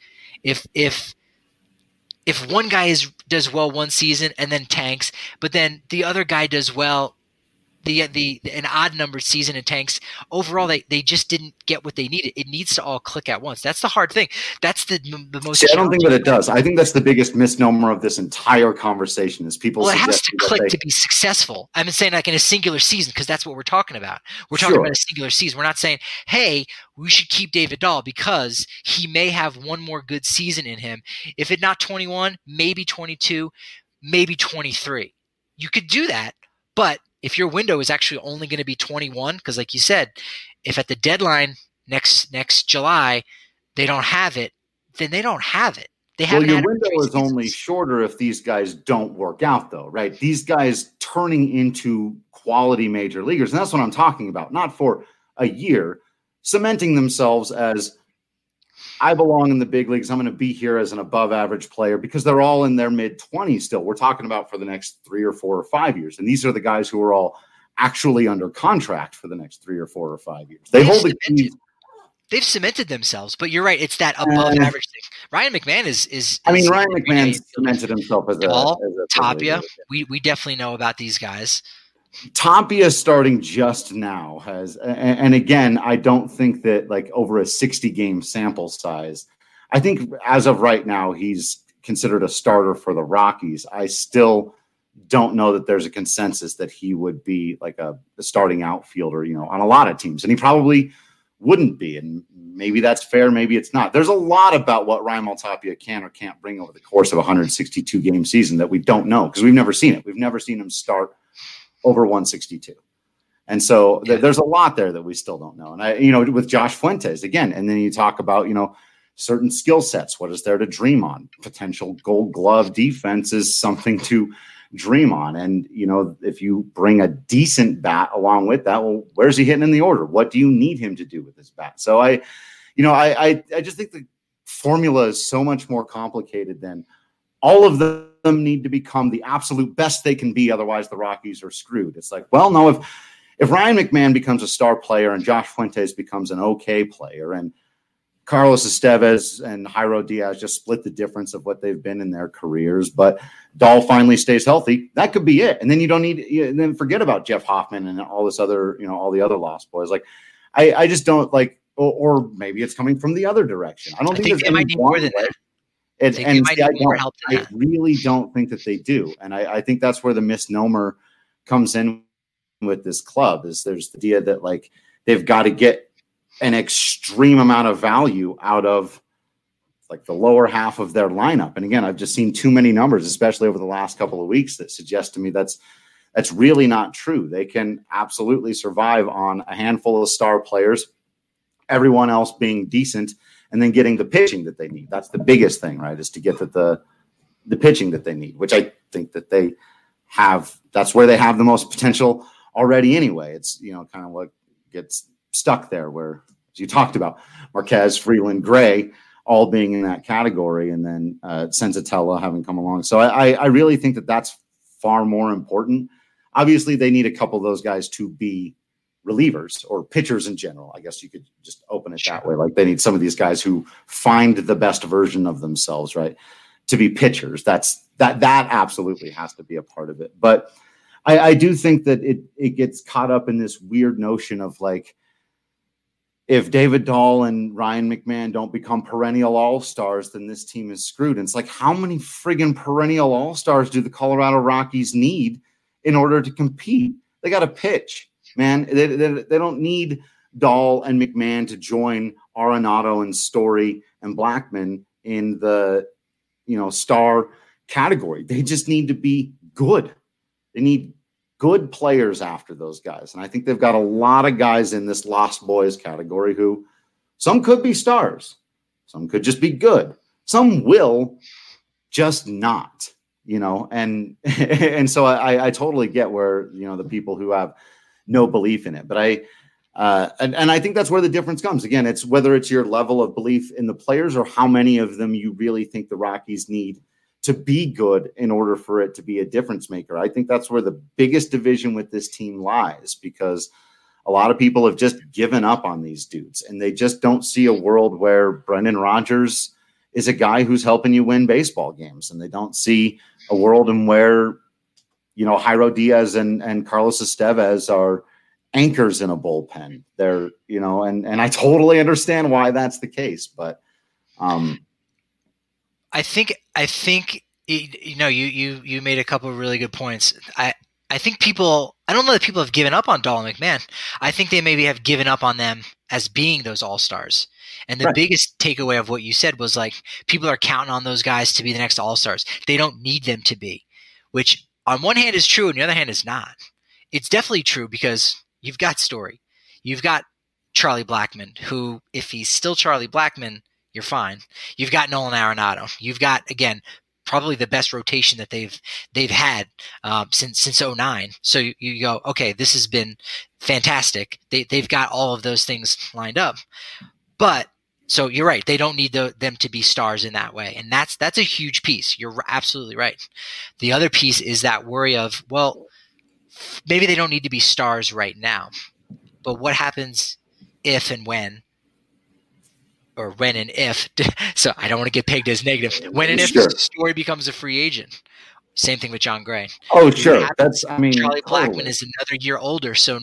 If one guy does well one season and then tanks, but then the other guy does well an odd numbered season and tanks, overall they just didn't get what they needed. It needs to all click at once. That's the hard thing. That's the most. See, I don't think that it does. I think that's the biggest misnomer of this entire conversation is people. Well, it has to click to be successful. I'm saying like in a singular season because that's what we're talking about. We're talking about a singular season. We're not saying, hey, we should keep David Dahl because he may have one more good season in him. If it's not 21, maybe 22, maybe 23. You could do that, but if your window is actually only going to be 21, because like you said, if at the deadline next July they don't have it, then they don't have it. Well, your window is only shorter if these guys don't work out, though, right? These guys turning into quality major leaguers, and that's what I'm talking about. Not for a year, cementing themselves as I belong in the big leagues. I'm going to be here as an above average player because they're all in their mid-20s still. We're talking about for the next 3 or 4 or 5 years. And these are the guys who are all actually under contract for the next 3 or 4 or 5 years. They've cemented themselves, but you're right. It's that above average thing. Ryan McMahon is Ryan McMahon cemented himself as a Tapia. We definitely know about these guys. Tapia starting just now and again, I don't think that like over a 60-game sample size, I think as of right now, he's considered a starter for the Rockies. I still don't know that there's a consensus that he would be like a starting outfielder, on a lot of teams, and he probably wouldn't be. And maybe that's fair. Maybe it's not. There's a lot about what Raimel Tapia can or can't bring over the course of a 162-game season that we don't know because we've never seen it. We've never seen him start over 162. And so there's a lot there that we still don't know. And with Josh Fuentes again, and then you talk about, certain skill sets. What is there to dream on? Potential Gold Glove defense is something to dream on. And, if you bring a decent bat along with that, well, where's he hitting in the order? What do you need him to do with his bat? So I just think the formula is so much more complicated than all of them need to become the absolute best they can be. Otherwise the Rockies are screwed. It's like, well, no, if Ryan McMahon becomes a star player and Josh Fuentes becomes an okay player and Carlos Estevez and Jairo Diaz just split the difference of what they've been in their careers, but Dahl finally stays healthy, that could be it. And then you don't need, then forget about Jeff Hoffman and all this other, all the other lost boys. Like, I just don't like, or maybe it's coming from the other direction. I don't think there's it might need more than that. And They might see, need more help than I that. really don't think that they do. And I think that's where the misnomer comes in with this club, is there's the idea that like they've got to get an extreme amount of value out of like the lower half of their lineup. And again, I've just seen too many numbers, especially over the last couple of weeks, that suggest to me that's really not true. They can absolutely survive on a handful of star players, everyone else being decent, and then getting the pitching that they need. That's the biggest thing, right? Is to get the pitching that they need, which I think that they have. That's where they have the most potential already anyway. It's, kind of what gets stuck there, where, as you talked about, Marquez, Freeland, Gray, all being in that category, and then Senzatella having come along. So I really think that that's far more important. Obviously, they need a couple of those guys to be relievers or pitchers in general. I guess you could just open it that way. Like, they need some of these guys who find the best version of themselves, right, to be pitchers. That absolutely has to be a part of it. But I do think that it gets caught up in this weird notion of like, if David Dahl and Ryan McMahon don't become perennial all-stars, then this team is screwed. And it's like, how many friggin' perennial all-stars do the Colorado Rockies need in order to compete? They got to pitch, man. They don't need Dahl and McMahon to join Arenado and Story and Blackmon in the, star category. They just need to be good. They need good players after those guys. And I think they've got a lot of guys in this lost boys category who, some could be stars, some could just be good, some will just not, and so I totally get where, the people who have no belief in it. But and I think that's where the difference comes. Again, it's whether it's your level of belief in the players or how many of them you really think the Rockies need to be good in order for it to be a difference maker. I think that's where the biggest division with this team lies, because a lot of people have just given up on these dudes, and they just don't see a world where Brendan Rodgers is a guy who's helping you win baseball games. And they don't see a world in where, Jairo Diaz and Carlos Estevez are anchors in a bullpen. They're, and I totally understand why that's the case, but I think you made a couple of really good points. I think I don't know that people have given up on Dahl and McMahon. I think they maybe have given up on them as being those all-stars. And the biggest takeaway of what you said was like, people are counting on those guys to be the next all-stars. They don't need them to be, which on one hand is true and the other hand is not. It's definitely true because you've got Story. You've got Charlie Blackmon, who, if he's still Charlie Blackmon, you're fine. You've got Nolan Arenado. You've got, again, probably the best rotation that they've had since 2009. So you go, okay, this has been fantastic. They've got all of those things lined up. But so you're right. They don't need them to be stars in that way. And that's a huge piece. You're absolutely right. The other piece is that worry of, well, maybe they don't need to be stars right now. But what happens if and when, or when and if, so I don't want to get pegged as negative, when and if Story becomes a free agent. Same thing with John Gray. Oh, sure. Charlie Blackmon is another year older. So,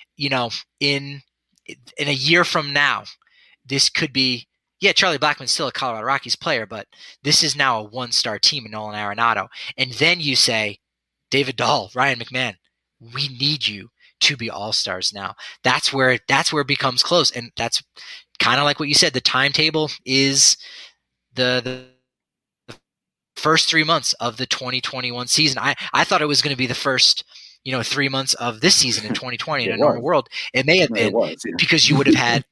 in a year from now, this could be, Charlie Blackmon's still a Colorado Rockies player, but this is now a one-star team in Nolan Arenado. And then you say, David Dahl, Ryan McMahon, we need you to be all-stars now. That's where it becomes close. And that's kind of like what you said. The timetable is the first 3 months of the 2021 season. I thought it was going to be the first 3 months of this season in 2020 in a normal world. It may have been because you would have had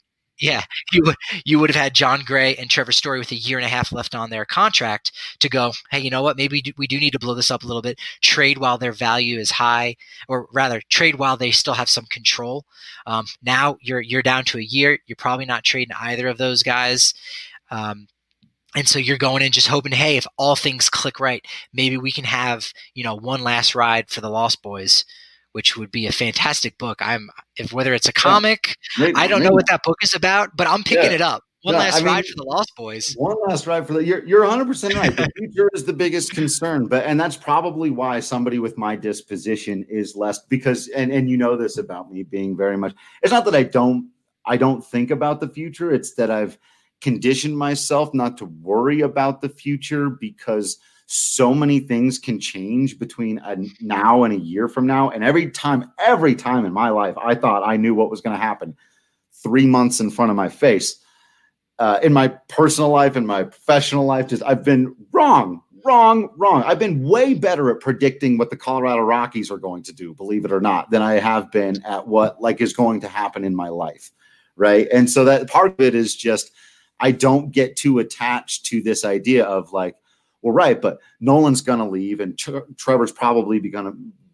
you would have had John Gray and Trevor Story with a year and a half left on their contract to go, hey, you know what? Maybe we do need to blow this up a little bit, trade while their value is high, or rather trade while they still have some control. Now you're down to a year. You're probably not trading either of those guys. And so you're going in just hoping, hey, if all things click right, maybe we can have, one last ride for the Lost Boys, which would be a fantastic book. Whether it's a comic, I don't know what that book is about, but I'm picking it up. One last ride for the Lost Boys. One last ride for you're 100% right. The future is the biggest concern, and that's probably why somebody with my disposition is less, because, and you know this about me being very much, it's not that I don't think about the future. It's that I've conditioned myself not to worry about the future because so many things can change between now and a year from now. And every time in my life, I thought I knew what was going to happen 3 months in front of my face. In my personal life, in my professional life, I've been wrong. I've been way better at predicting what the Colorado Rockies are going to do, believe it or not, than I have been at what is going to happen in my life. Right. And so that part of it is just, I don't get too attached to this idea of well, right, but Nolan's going to leave and Trevor's probably gonna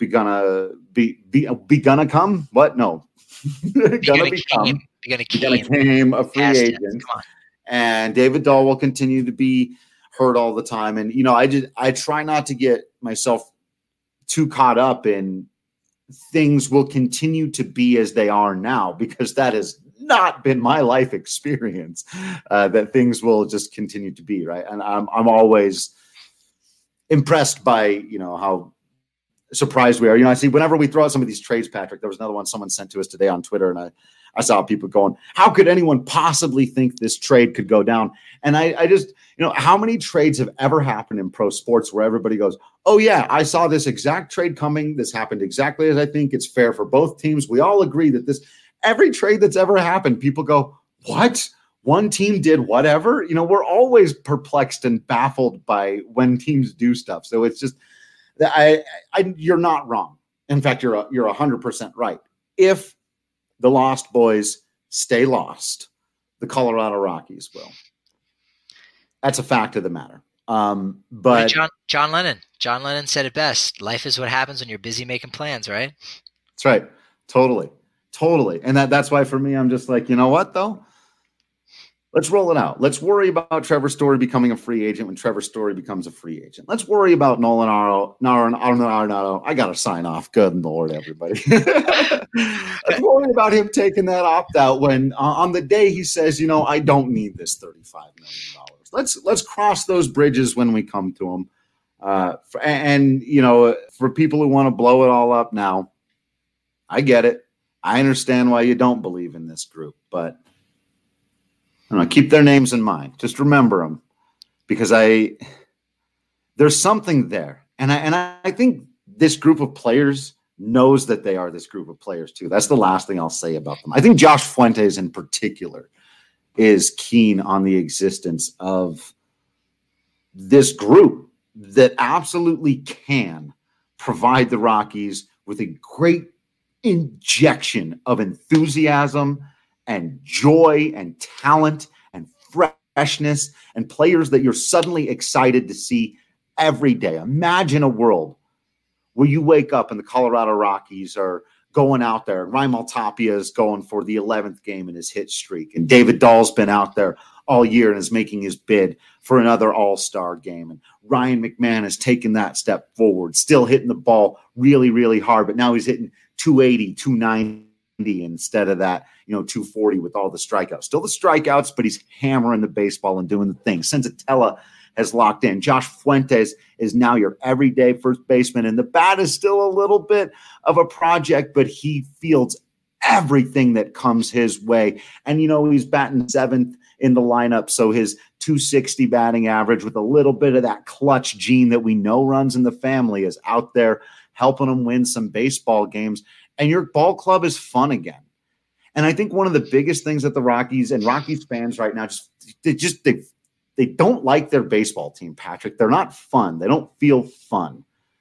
come. What? No, gonna become a free agent. And David Dahl will continue to be hurt all the time. And, I try not to get myself too caught up in things will continue to be as they are now, because that has not been my life experience, that things will just continue to be, right. And I'm always impressed by, how surprised we are. I see whenever we throw out some of these trades, Patrick, there was another one someone sent to us today on Twitter, and I saw people going, how could anyone possibly think this trade could go down? And I just, how many trades have ever happened in pro sports where everybody goes, oh yeah, I saw this exact trade coming. This happened exactly as I think. It's fair for both teams. We all agree that every trade that's ever happened, people go, what? One team did whatever? We're always perplexed and baffled by when teams do stuff. So it's just, you're not wrong. In fact, you're 100% right. If the Lost Boys stay lost, the Colorado Rockies will. That's a fact of the matter. But John Lennon said it best. Life is what happens when you're busy making plans, right? That's right. Totally. And that's why for me, I'm just like, you know what though? Let's roll it out. Let's worry about Trevor Story becoming a free agent when Trevor Story becomes a free agent. Let's worry about Nolan Arenado. I got to sign off. Good Lord, everybody. Let's worry about him taking that opt-out when on the day he says, I don't need this $35 million. Let's cross those bridges when we come to them. For people who want to blow it all up now, I get it. I understand why you don't believe in this group, but keep their names in mind. Just remember them, because there's something there. And I think this group of players knows that they are this group of players too. That's the last thing I'll say about them. I think Josh Fuentes in particular is keen on the existence of this group that absolutely can provide the Rockies with a great injection of enthusiasm and joy and talent and freshness and players that you're suddenly excited to see every day. Imagine a world where you wake up and the Colorado Rockies are going out there, and Raimel Tapia is going for the 11th game in his hit streak, and David Dahl's been out there all year and is making his bid for another all-star game, and Ryan McMahon has taken that step forward, still hitting the ball really, really hard, but now he's hitting 280, 290 instead of that, 240 with all the strikeouts. Still the strikeouts, but he's hammering the baseball and doing the thing. Senzatella has locked in. Josh Fuentes is now your everyday first baseman, and the bat is still a little bit of a project, but he fields everything that comes his way. And, he's batting 7th in the lineup, so his 260 batting average with a little bit of that clutch gene that we know runs in the family is out there helping him win some baseball games. And your ball club is fun again. And I think one of the biggest things that the Rockies and Rockies fans right now, they don't like their baseball team, Patrick. They're not fun. They don't feel fun.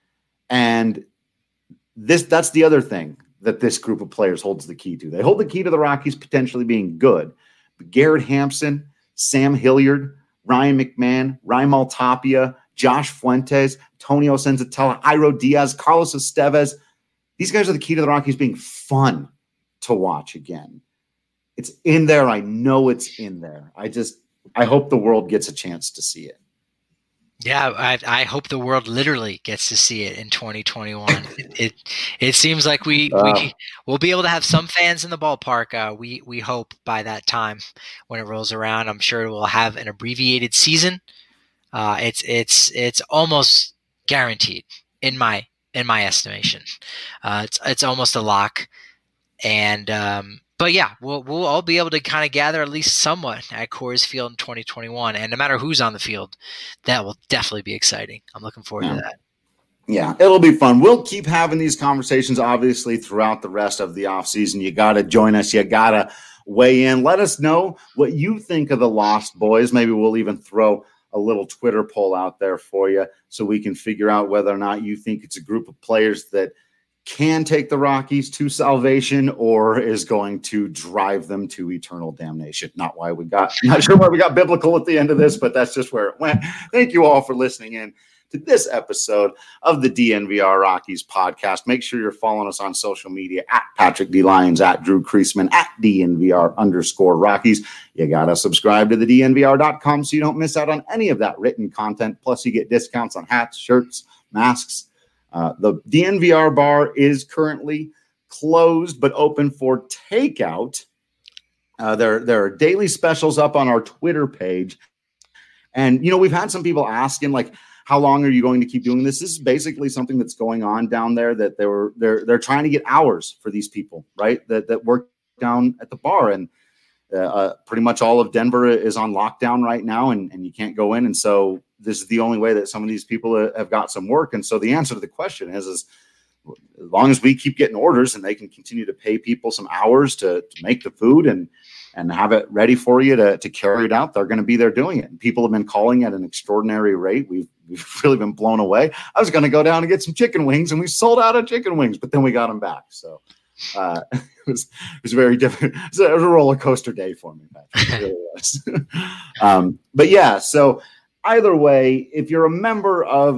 And that's the other thing that this group of players holds the key to. They hold the key to the Rockies potentially being good. But Garrett Hampson, Sam Hilliard, Ryan McMahon, Raimel Tapia, Josh Fuentes, Antonio Senzatella, Iro Diaz, Carlos Estevez, these guys are the key to the Rockies being fun to watch again. It's in there. I know it's in there. I hope the world gets a chance to see it. Yeah, I hope the world literally gets to see it in 2021. It seems like we'll be able to have some fans in the ballpark. We hope by that time when it rolls around. I'm sure we'll have an abbreviated season. It's almost guaranteed in my estimation. It's almost a lock. And But yeah, we'll all be able to kind of gather at least somewhat at Coors Field in 2021. And no matter who's on the field, that will definitely be exciting. I'm looking forward to that. Yeah, it'll be fun. We'll keep having these conversations, obviously, throughout the rest of the offseason. You got to join us. You got to weigh in. Let us know what you think of the Lost Boys. Maybe we'll even throw a little Twitter poll out there for you so we can figure out whether or not you think it's a group of players that can take the Rockies to salvation or is going to drive them to eternal damnation. Not sure why we got biblical at the end of this, but that's just where it went. Thank you all for listening in to this episode of the DNVR Rockies podcast. Make sure you're following us on social media at Patrick D. Lyons, at Drew Creasman, at DNVR_Rockies. You got to subscribe to the DNVR.com so you don't miss out on any of that written content. Plus, you get discounts on hats, shirts, masks. The DNVR bar is currently closed but open for takeout. There are daily specials up on our Twitter page. And, we've had some people asking, like, how long are you going to keep doing this? This is basically something that's going on down there that they're trying to get hours for these people, right? That work down at the bar. And pretty much all of Denver is on lockdown right now, and you can't go in. And so this is the only way that some of these people have got some work. And so the answer to the question is as long as we keep getting orders and they can continue to pay people some hours to make the food and have it ready for you to carry it out, they're going to be there doing it. And people have been calling at an extraordinary rate. We've really been blown away. I was going to go down and get some chicken wings, and we sold out of chicken wings, but then we got them back. So it was very different. It was a roller coaster day for me, Patrick. It really was. But yeah, so either way, if you're a member of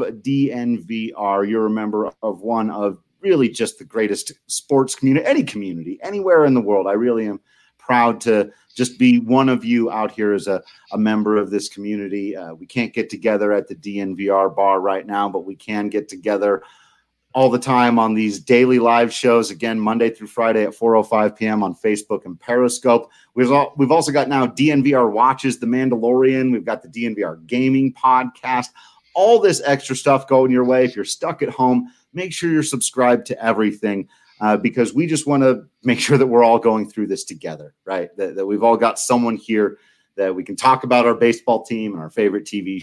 DNVR, you're a member of one of really just the greatest sports community, anywhere in the world. I really am proud to just be one of you out here as a member of this community. We can't get together at the DNVR bar right now, but we can get together all the time on these daily live shows, again, Monday through Friday at 4:05 p.m. on Facebook and Periscope. We've also got now DNVR Watches The Mandalorian. We've got the DNVR Gaming Podcast. All this extra stuff going your way. If you're stuck at home, make sure you're subscribed to everything. Because we just want to make sure that we're all going through this together, right? That we've all got someone here that we can talk about our baseball team and our favorite TV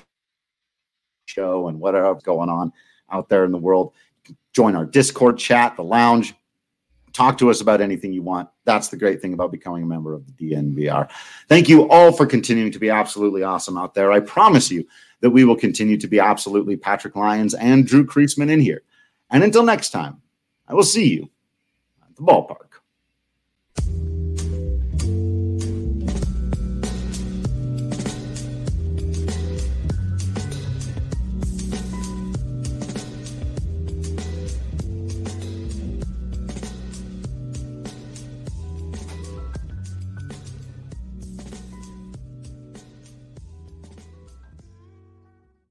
show and whatever's going on out there in the world. Join our Discord chat, the lounge. Talk to us about anything you want. That's the great thing about becoming a member of the DNVR. Thank you all for continuing to be absolutely awesome out there. I promise you that we will continue to be absolutely Patrick Lyons and Drew Creasman in here. And until next time, I will see you the ballpark.